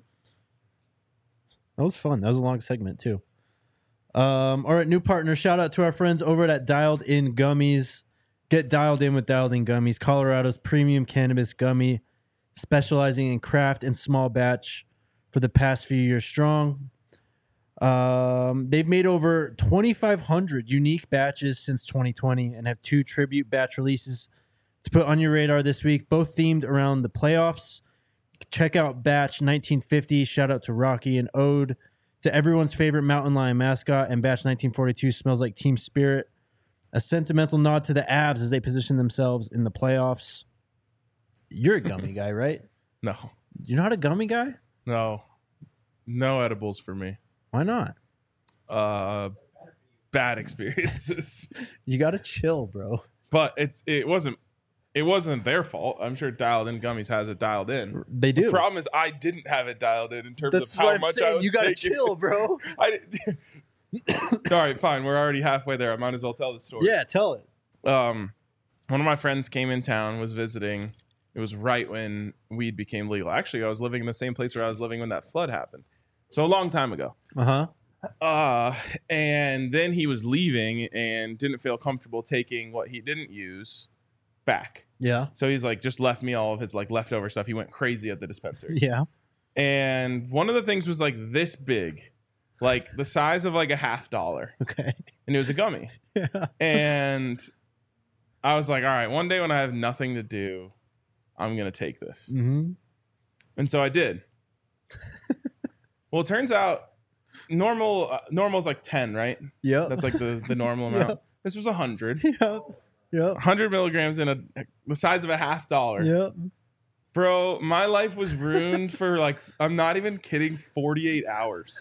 That was fun. That was a long segment too. All right, new partner. Shout out to our friends over at Dialed In Gummies. Get dialed in with Dialed In Gummies, Colorado's premium cannabis gummy, specializing in craft and small batch for the past few years strong. They've made over 2,500 unique batches since 2020 and have 2 tribute batch releases to put on your radar this week, both themed around the playoffs. Check out Batch 1950, shout out to Rocky, an ode to everyone's favorite mountain lion mascot, and Batch 1942 smells like team spirit, a sentimental nod to the Avs as they position themselves in the playoffs. You're a gummy guy, right? No. You're not a gummy guy? No edibles for me. Why not? Bad experiences. You gotta chill, bro. But it wasn't their fault. I'm sure Dialed In Gummies has it dialed in. They do. The problem is I didn't have it dialed in terms That's of how what I'm much saying. I was You gotta taking. chill, bro. All right, fine. We're already halfway there. I might as well tell the story. Yeah, tell it. One of my friends came in town, was visiting. It was right when weed became legal. Actually, I was living in the same place where I was living when that flood happened. So a long time ago. And then he was leaving and didn't feel comfortable taking what he didn't use back. Yeah. So he's just left me all of his leftover stuff. He went crazy at the dispensary. Yeah. And one of the things was this big, the size of $50. Okay. And it was a gummy. Yeah. And I was like, all right, one day when I have nothing to do, I'm going to take this. Mm-hmm. And so I did. Well, it turns out normal's 10, right? Yeah. That's the normal amount. Yep. This was 100. Yep. 100 milligrams in the size of $50. Yep. Bro, my life was ruined for I'm not even kidding, 48 hours.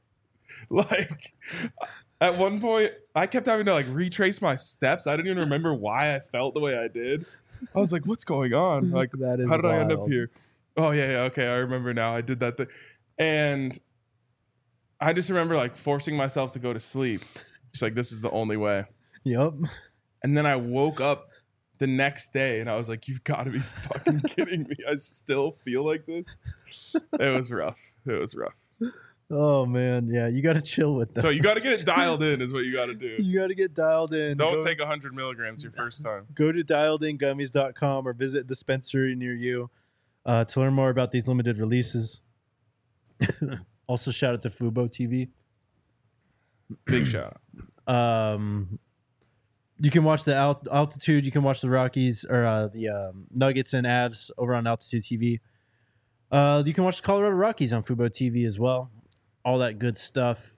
At one point, I kept having to retrace my steps. I didn't even remember why I felt the way I did. I was like, what's going on? That is how did I end up wild. here? Oh, yeah, okay, I remember now. I did that thing. And I just remember forcing myself to go to sleep. Just this is the only way. Yep. And then I woke up the next day and I was like, you've got to be fucking kidding me. I still feel like this. It was rough. Oh man, yeah, you got to chill with that. So you got to get it dialed in is what you got to do. You got to get dialed in. Don't take 100 milligrams your first time. Go to dialedingummies.com or visit a dispensary near you to learn more about these limited releases. Also, shout out to Fubo TV. Big shout. You can watch the Altitude. You can watch the Rockies or the Nuggets and Avs over on Altitude TV. You can watch the Colorado Rockies on Fubo TV as well. All that good stuff.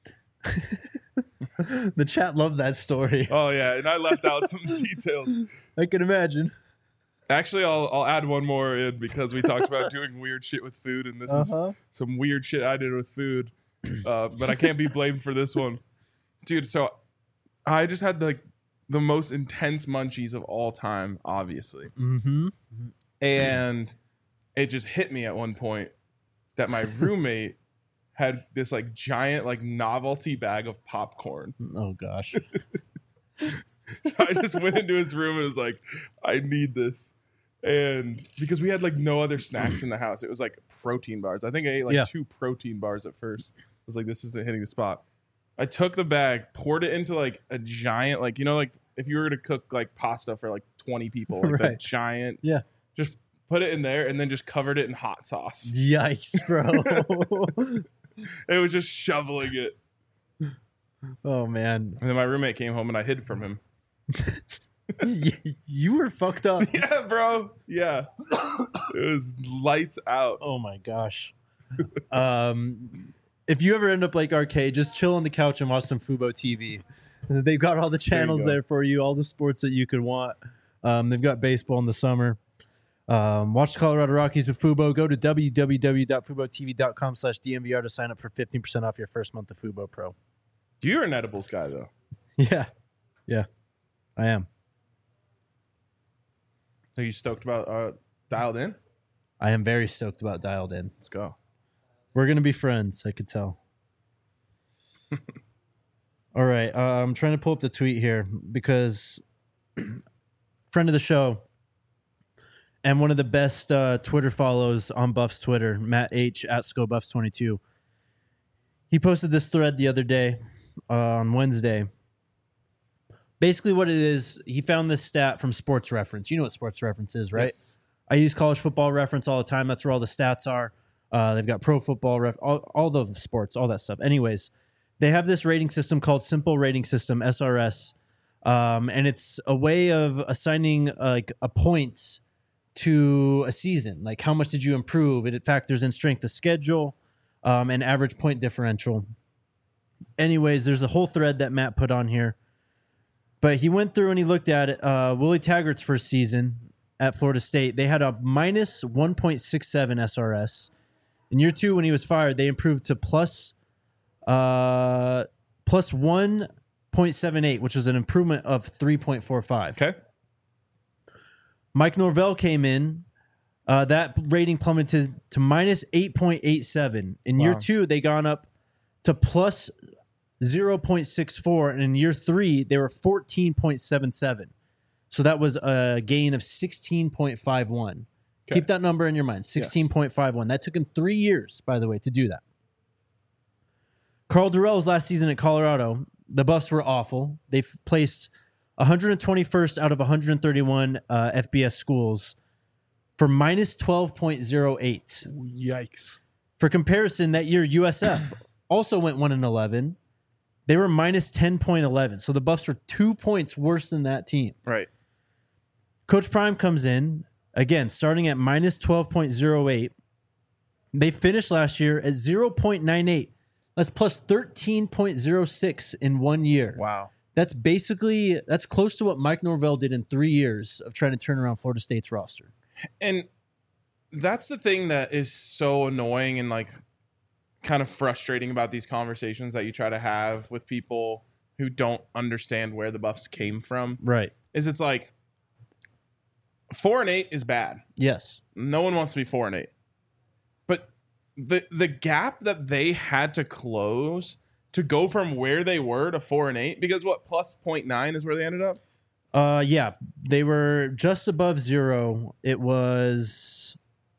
The chat loved that story. Oh yeah, and I left out some details. I can imagine. Actually, I'll add one more in because we talked about doing weird shit with food, and this is some weird shit I did with food. But I can't be blamed for this one, dude. So I just had the most intense munchies of all time, obviously, Mm-hmm. and it just hit me at one point that my roommate had this like giant like novelty bag of popcorn. Oh gosh. So I just went into his room and was like, I need this. And because we had like no other snacks in the house, it was like protein bars. I think I ate like 2 protein bars at first. I was like, this isn't hitting the spot. I took the bag, poured it into like a giant, like, you know, like if you were to cook like pasta for like 20 people, like that giant, just put it in there and then just covered it in hot sauce. Yikes, bro. It was just shoveling it. Oh man. And then my roommate came home and I hid from him. You were fucked up. Yeah, bro. Yeah. It was lights out. Oh my gosh. If you ever end up like Arcade, just chill on the couch and watch some Fubo TV. They've got all the channels there for you, all the sports that you could want. They've got baseball in the summer. Watch the Colorado Rockies with Fubo. Go to www.fubotv.com/DNVR to sign up for 15% off your first month of Fubo Pro. You're an edibles guy, though. Yeah. I am. So you stoked about Dialed In? I am very stoked about Dialed In. Let's go. We're going to be friends, I could tell. All right. I'm trying to pull up the tweet here because friend of the show and one of the best Twitter follows on Buffs Twitter, Matt H. at ScoBuffs22. He posted this thread the other day on Wednesday. Basically what it is, he found this stat from Sports Reference. You know what Sports Reference is, right? Yes. I use College Football Reference all the time. That's where all the stats are. They've got Pro Football, all the sports, all that stuff. Anyways, they have this rating system called Simple Rating System, SRS, and it's a way of assigning like a point to a season. Like how much did you improve? It factors in strength of schedule and average point differential. Anyways, there's a whole thread that Matt put on here. But he went through and he looked at it. Willie Taggart's first season at Florida State, they had a minus 1.67 SRS. In year 2, when he was fired, they improved to plus 1.78, which was an improvement of 3.45. Okay. Mike Norvell came in. That rating plummeted to minus 8.87. In year 2, they gone up to plus 0.64, and in year 3 they were 14.77. So that was a gain of 16.51. Okay. Keep that number in your mind, 16.51. Yes. That took him 3 years, by the way, to do that. Carl Durrell's last season at Colorado, the Buffs were awful. They placed 121st out of 131 FBS schools for minus 12.08. Yikes. For comparison, that year USF also went 1-11. They were minus 10.11. So the Buffs were 2 points worse than that team. Right. Coach Prime comes in, again, starting at minus 12.08. They finished last year at 0.98. That's plus 13.06 in 1 year. Wow. That's close to what Mike Norvell did in 3 years of trying to turn around Florida State's roster. And that's the thing that is so annoying and like kind of frustrating about these conversations that you try to have with people who don't understand where the Buffs came from. Right. Is it's like 4-8 is bad. Yes. No one wants to be 4-8. But the gap that they had to close to go from where they were to 4-8, because what, plus 0.9 is where they ended up? Yeah. They were just above 0. It was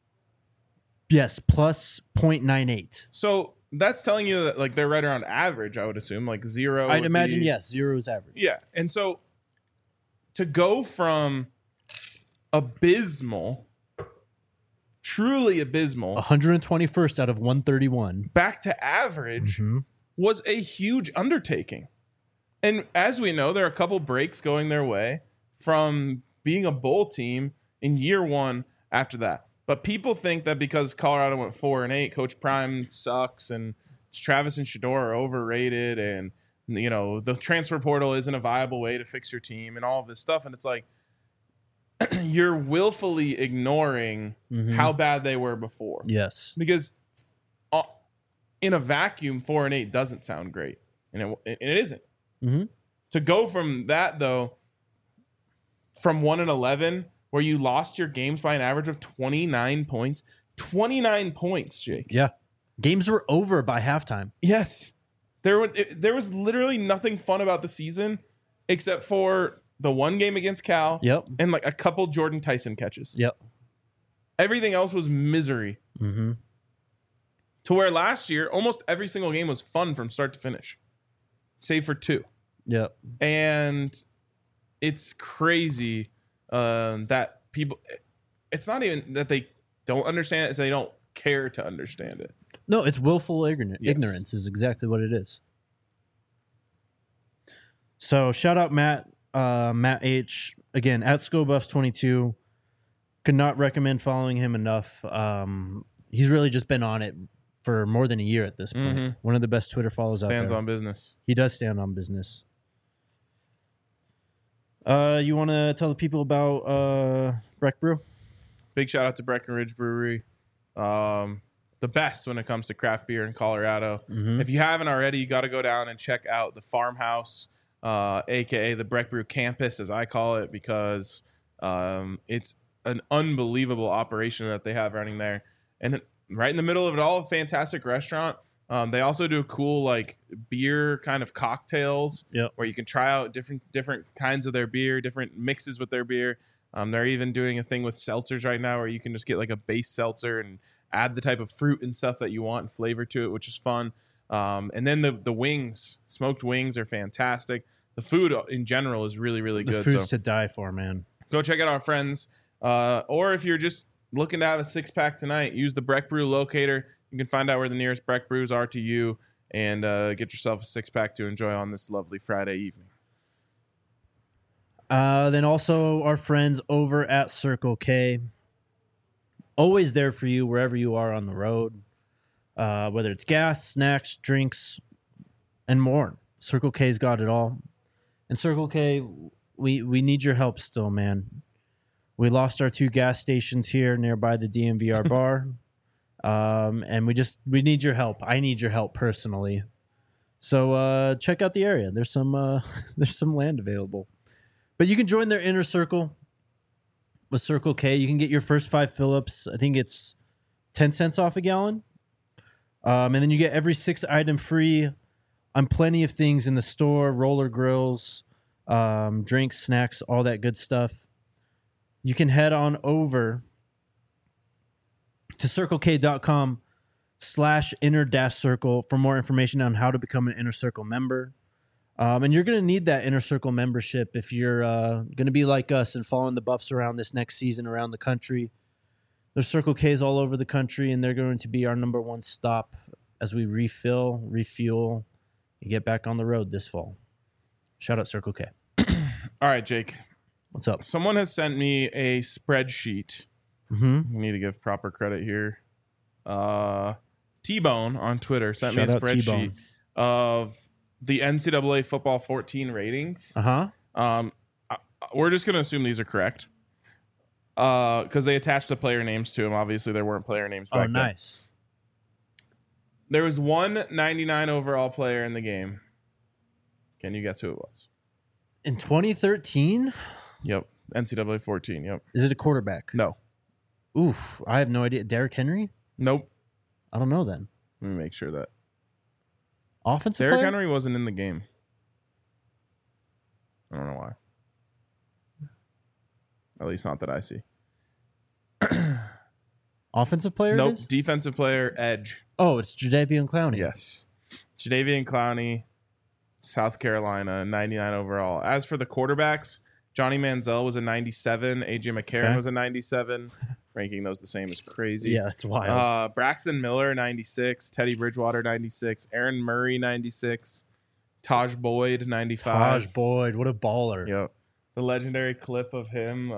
plus 0.98. So that's telling you that like they're right around average, I would assume. Like 0. I'd imagine, yes, 0 is average. Yeah. And so to go from abysmal, truly abysmal, 121st out of 131, back to average was a huge undertaking. And as we know, there are a couple breaks going their way from being a bowl team in year 1 after that. But people think that because Colorado went 4-8, Coach Prime sucks and Travis and Shedeur are overrated, and you know the transfer portal isn't a viable way to fix your team and all of this stuff. And it's like you're willfully ignoring how bad they were before. Yes, because in a vacuum, 4-8 doesn't sound great, and it isn't. To go from that though, from 1-11. Where you lost your games by an average of 29 points 29 points, Jake. Yeah. Games were over by halftime. Yes. There was literally nothing fun about the season except for the one game against Cal Yep. and like a couple Jordan Tyson catches. Yep. Everything else was misery. Mm-hmm. To where last year, almost every single game was fun from start to finish, save for 2. Yep. And it's crazy that people, it's not even that they don't understand it, it's they don't care to understand it. No, it's willful Yes. ignorance is exactly what it is. So shout out Matt H. Again, at ScoBuffs22. Could not recommend following him enough. He's really just been on it for more than a year at this point. Mhm. One of the best Twitter follows out there. Stands on business. He does stand on business. You want to tell the people about Breck Brew? Big shout out to Breckenridge Brewery. The best when it comes to craft beer in Colorado. Mhm. If you haven't already, you got to go down and check out the farmhouse, aka the Breck Brew campus, as I call it, because it's an unbelievable operation that they have running there. And right in the middle of it all, a fantastic restaurant. They also do cool like beer kind of cocktails Yep. where you can try out different kinds of their beer, different mixes with their beer. They're even doing a thing with seltzers right now where you can just get like a base seltzer and add the type of fruit and stuff that you want and flavor to it, which is fun. And then the wings, smoked wings are fantastic. The food in general is really, really The good. food's So to die for, man. go check out our friends. Or if you're just looking to have a 6-pack tonight, use the Breck Brew locator. You can find out where the nearest Breck Brews are to you and get yourself a 6-pack to enjoy on this lovely Friday evening. Then also our friends over at Circle K. Always there for you wherever you are on the road. Whether it's gas, snacks, drinks, and more. Circle K's got it all. And Circle K, we need your help still, man. We lost our 2 gas stations here nearby the DMVR bar. And we need your help. I need your help personally. So check out the area. There's some land available. But you can join their inner circle with Circle K. You can get your first 5 fill-ups. I think it's 10 cents off a gallon. And then you get every 6 item free on plenty of things in the store, roller grills, drinks, snacks, all that good stuff. You can head on over to circlek.com/inner-circle for more information on how to become an Inner Circle member. And you're going to need that Inner Circle membership if you're going to be like us and following the Buffs around this next season around the country. There's Circle K's all over the country, and they're going to be our number 1 stop as we refuel, and get back on the road this fall. Shout out Circle K. All right, Jake. What's up? Someone has sent me a spreadsheet. Mm-hmm. We need to give proper credit here. T-Bone on Twitter sent Shout me a out spreadsheet T-Bone. of the NCAA football 14 ratings. Uh-huh. We're just going to assume these are correct because they attached the player names to them. Obviously, there weren't player names back Oh, then. nice. There was one 99 overall player in the game. Can you guess who it was? In 2013? Yep. NCAA 14. Yep. Is it a quarterback? No. Oof. I have no idea. Derrick Henry? Nope. I don't know then. Let me make sure that. Offensive Derrick player? Henry wasn't in the game. I don't know why. At least not that I see. Offensive player? Nope. It is? Defensive player, edge. Oh, it's Jadeveon Clowney. Yes. Jadeveon Clowney, South Carolina, 99 overall. As for the quarterbacks, Johnny Manziel was a 97. AJ McCarron Okay. was a 97. Ranking those the same is crazy. Yeah, it's wild. Braxton Miller, 96. Teddy Bridgewater, 96. Aaron Murray, 96. Taj Boyd, 95. Taj Boyd, what a baller. Yep. The legendary clip of him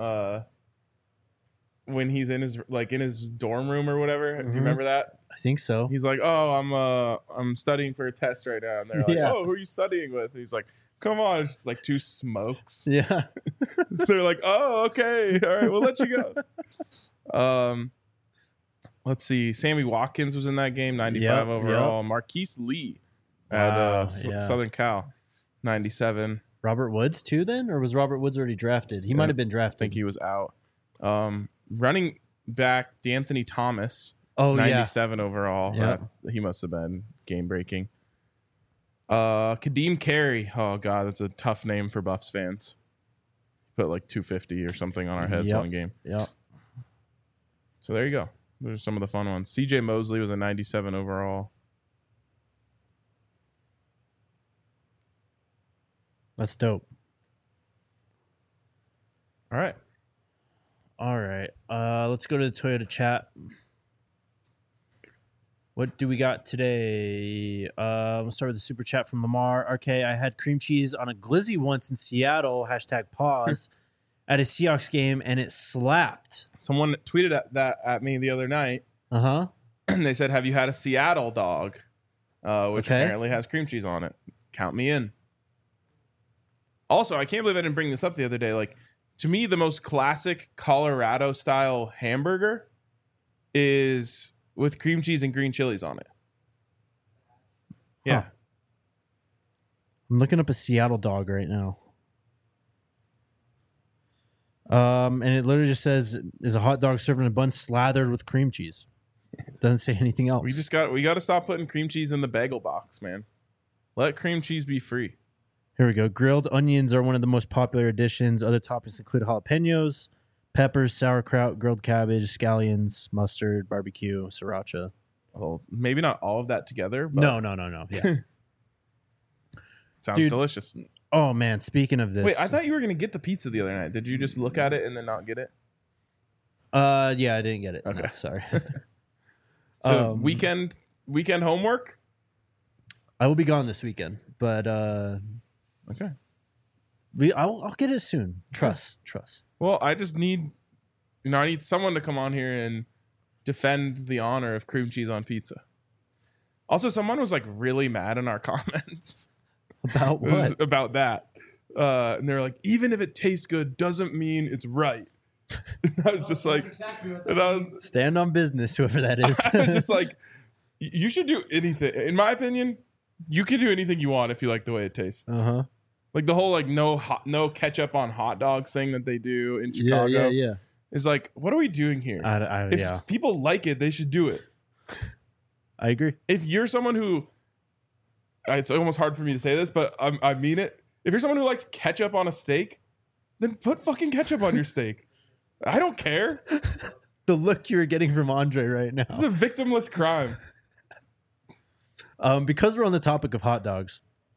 when he's in his dorm room or whatever. Do you Mhm. remember that? I think so. He's like, "Oh, I'm studying for a test right now." And they're like, Yeah. "Oh, who are you studying with?" And he's like, "Come on." It's just like 2 smokes. Yeah. They're like, "Oh, okay. All right, we'll let you go." Let's see. Sammy Watkins was in that game, 95 Yep, overall. Marquise Lee Wow, at yeah. Southern Cal, 97. Robert Woods too then? Or was Robert Woods already drafted? He might have been I drafted. think he was out. Running back D'Anthony Thomas, Oh, yeah. 97 overall. Yep. He must have been game breaking. Kadeem Carey. Oh god, that's a tough name for Buffs fans. Put like 250 or something on our heads Yep. one game. Yep. So there you go. Those are some of the fun ones. CJ Mosley was a 97 overall. That's dope. All right. All right. Let's go to the Toyota chat. What do we got today? We'll start with the super chat from Lamar. RK, I had cream cheese on a glizzy once in Seattle, #pause, at a Seahawks game, and it slapped. Someone tweeted that at me the other night, Uh-huh. and they said, "Have you had a Seattle dog?" Which Okay. apparently has cream cheese on it. Count me in. Also, I can't believe I didn't bring this up the other day. Like, to me, the most classic Colorado style hamburger is with cream cheese and green chilies on it. Yeah. Huh. I'm looking up a Seattle dog right now. And it literally just says, is a hot dog served in a bun slathered with cream cheese. Doesn't say anything else. We got to stop putting cream cheese in the bagel box, man. Let cream cheese be free. Here we go. Grilled onions are one of the most popular additions. Other toppings include jalapenos, peppers, sauerkraut, grilled cabbage, scallions, mustard, barbecue, sriracha. Well, maybe not all of that together, but No. Yeah. sounds Dude. delicious. Oh, man. Speaking of this. Wait, I thought you were going to get the pizza the other night. Did you just look at it and then not get it? Yeah, I didn't get it. Okay. No, sorry. So weekend homework? I will be gone this weekend, but Okay. I'll get it soon. Trust. Well, I just need, I need someone to come on here and defend the honor of cream cheese on pizza. Also, someone was like really mad in our comments About what? about that. And they're like, even if it tastes good, doesn't mean it's right. And I was just like, exactly what and I was, Stand on business, whoever that is. I was just like, you should do anything. In my opinion, you can do anything you want if you like the way it tastes. Uh-huh. Like the whole like no ketchup on hot dogs thing that they do in Chicago Yeah. is like, what are we doing here? If Yeah. people like it, they should do it. I agree. If you're someone who, it's almost hard for me to say this, but I mean it. If you're someone who likes ketchup on a steak, then put fucking ketchup on your steak. I don't care. The look you're getting from Andre right now. This is a victimless crime. Because we're on the topic of hot dogs,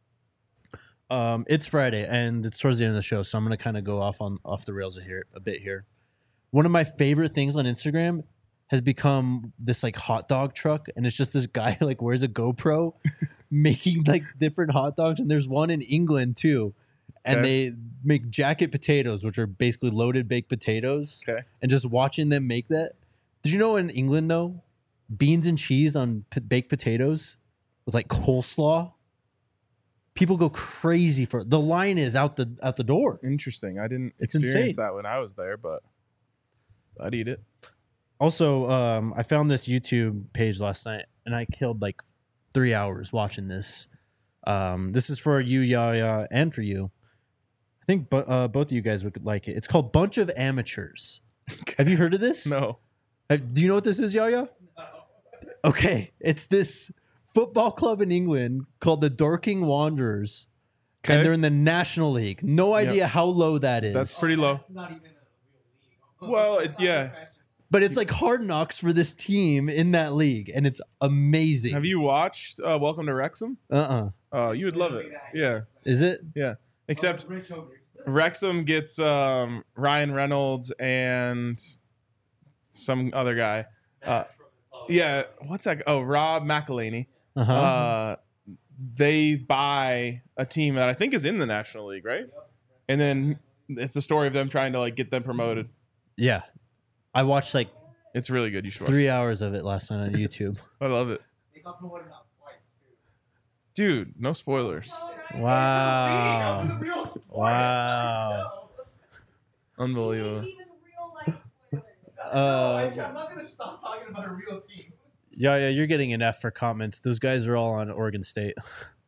it's Friday and it's towards the end of the show, so I'm gonna kind of go off the rails a bit here. One of my favorite things on Instagram has become this like hot dog truck, and it's just this guy like wears a GoPro making like different hot dogs, and there's one in England too, and Okay. they make jacket potatoes, which are basically loaded baked potatoes. Okay. And just watching them make that. Did you know in England though, beans and cheese on baked potatoes with like coleslaw? People go crazy for it. The line is out the door. Interesting. I didn't It's experience insane. that when I was there, but I'd eat it. Also, I found this YouTube page last night, and I killed like 3 hours watching this. This is for you, Yaya, and for you. I think both of you guys would like it. It's called Bunch of Amateurs. Have you heard of this? No. Do you know what this is, Yaya? Okay, it's this football club in England called the Dorking Wanderers, Okay. and they're in the National League. No idea how low that is. That's pretty low. That's not even a real league. Well, That's not yeah. professional. But it's like hard knocks for this team in that league, and it's amazing. Have you watched Welcome to Wrexham? Oh, you would love it. Yeah. Is it? Yeah. Except Oh, Rich Ogre. Wrexham gets Ryan Reynolds and some other guy. Yeah, what's that? Oh, Rob McElhaney. Uh-huh. They buy a team that I think is in the National League, right? And then it's the story of them trying to like get them promoted. Yeah. I watched like It's really good. You should watch 3 hours of it last night on YouTube. it. I love it. They got promoted now twice too. Dude, no spoilers. Wow. That was a real sport. Wow. Unbelievable. Even real life spoilers. I'm not gonna stop talking about a real team. Yeah, you're getting an F for comments. Those guys are all on Oregon State.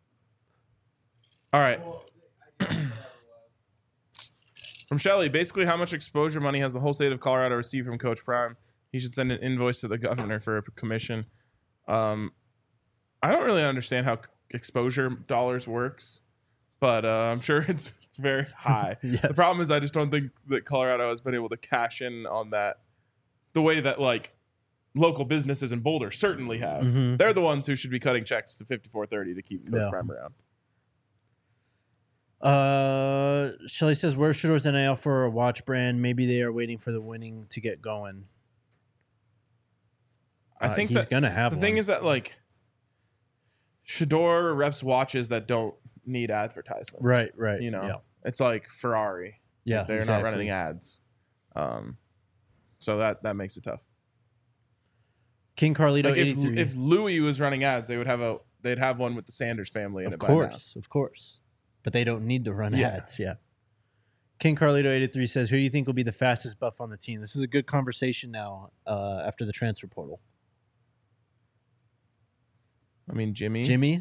All right. Well, I can't remember what it was. From Shelly, basically how much exposure money has the whole state of Colorado received from Coach Prime He should send an invoice to the governor for a commission. I don't really understand how exposure dollars works, but I'm sure it's very high. Yes. The problem is I just don't think that Colorado has been able to cash in on that the way that like local businesses in Boulder certainly have. Mhm. They're the ones who should be cutting checks to 5430 to keep Coach Yeah. Prime around. Shelly says, where's Shador's NIL for a watch brand? Maybe they are waiting for the winning to get going. I think he's that gonna have the one. thing is that like Shador reps watches that don't need advertisements. right. You know, yeah, it's like Ferrari. yeah, They're exactly. not running ads. So that makes it tough. King Carlito Like 83. if Louis was running ads, they'd have one with the Sanders family in Of it by now. course. But they don't need to run Yeah. ads. Yeah. King Carlito 83 says, who do you think will be the fastest buff on the team? This is a good conversation now after the transfer portal. I mean, Jimmy. Jimmy?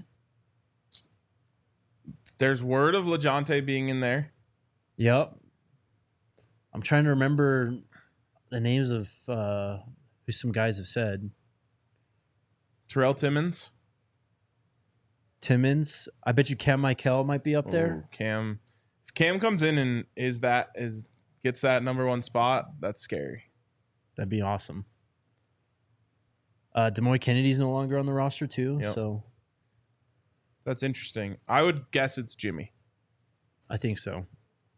There's word of LeJontay being in there. Yep. I'm trying to remember the names of who some guys have said. Terrell Timmons. Timmons. I bet you Cam Michael might be up there. Ooh, Cam. If Cam comes in and gets that number one spot, that's scary. That'd be awesome. Demoy Kennedy's no longer on the roster too, Yep. so That's interesting. I would guess it's Jimmy. I think so.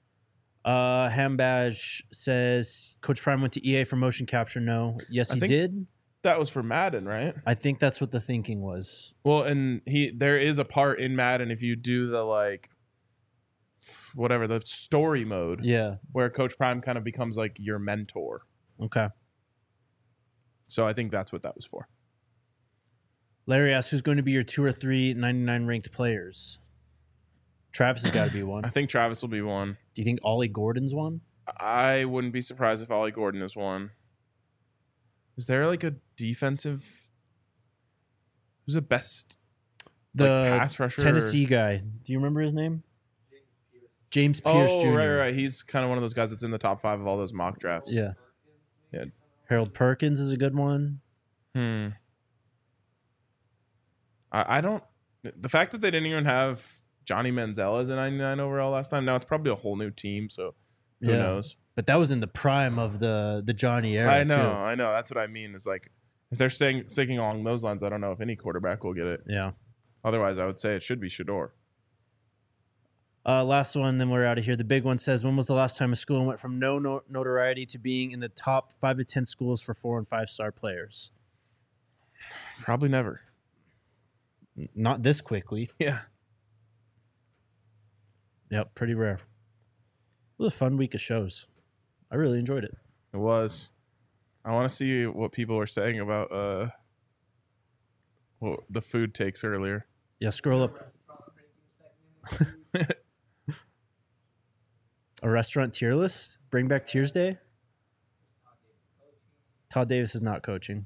Hambadge says Coach Prime went to EA for motion capture. No. Yes, I he think- did. That was for Madden, right? I think that's what the thinking was. Well, and there is a part in Madden if you do the like whatever the story mode Yeah. where Coach Prime kind of becomes like your mentor. Okay. So I think that's what that was for. Larry asks, who's going to be your 2 or 3 99 ranked players? Travis has got to be one. I think Travis will be one. Do you think Ollie Gordon's one? I wouldn't be surprised if Ollie Gordon is one. Is there like a defensive? Who's the best The pass rusher? Tennessee guy. Do you remember his name? James Pierce Oh, Jr. right. He's kind of one of those guys that's in the top 5 of all those mock drafts. Yeah. Yeah. Harold Perkins is a good one. I don't. The fact that they didn't even have Johnny Manziel as a 99 overall last time. Now it's probably a whole new team, so who knows? But that was in the prime of the Johnny era. I know. Too. That's what I mean. Is like if they're sticking along those lines, I don't know if any quarterback will get it. Yeah. Otherwise, I would say it should be Shador. Last one, then we're out of here. The big one says, when was the last time a school went from no notoriety to being in the top 5 to 10 schools for 4 and 5 star players? Probably never. Not this quickly. Yeah. Yep, pretty rare. It was a fun week of shows. I really enjoyed it. It was. I want to see what people were saying about the food takes earlier. Yeah, scroll up. A restaurant tier list? Bring back Tiers Day? Todd Davis is not coaching.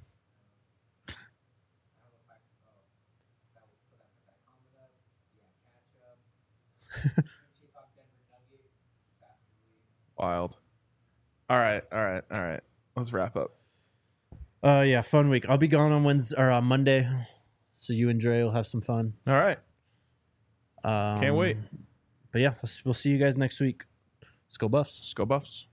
Wild. All right. Let's wrap up. Yeah, fun week. I'll be gone on Wednesday or on Monday, so you and Dre will have some fun. All right. Can't wait. But yeah, we'll see you guys next week. Let's go Buffs. Let's go Buffs.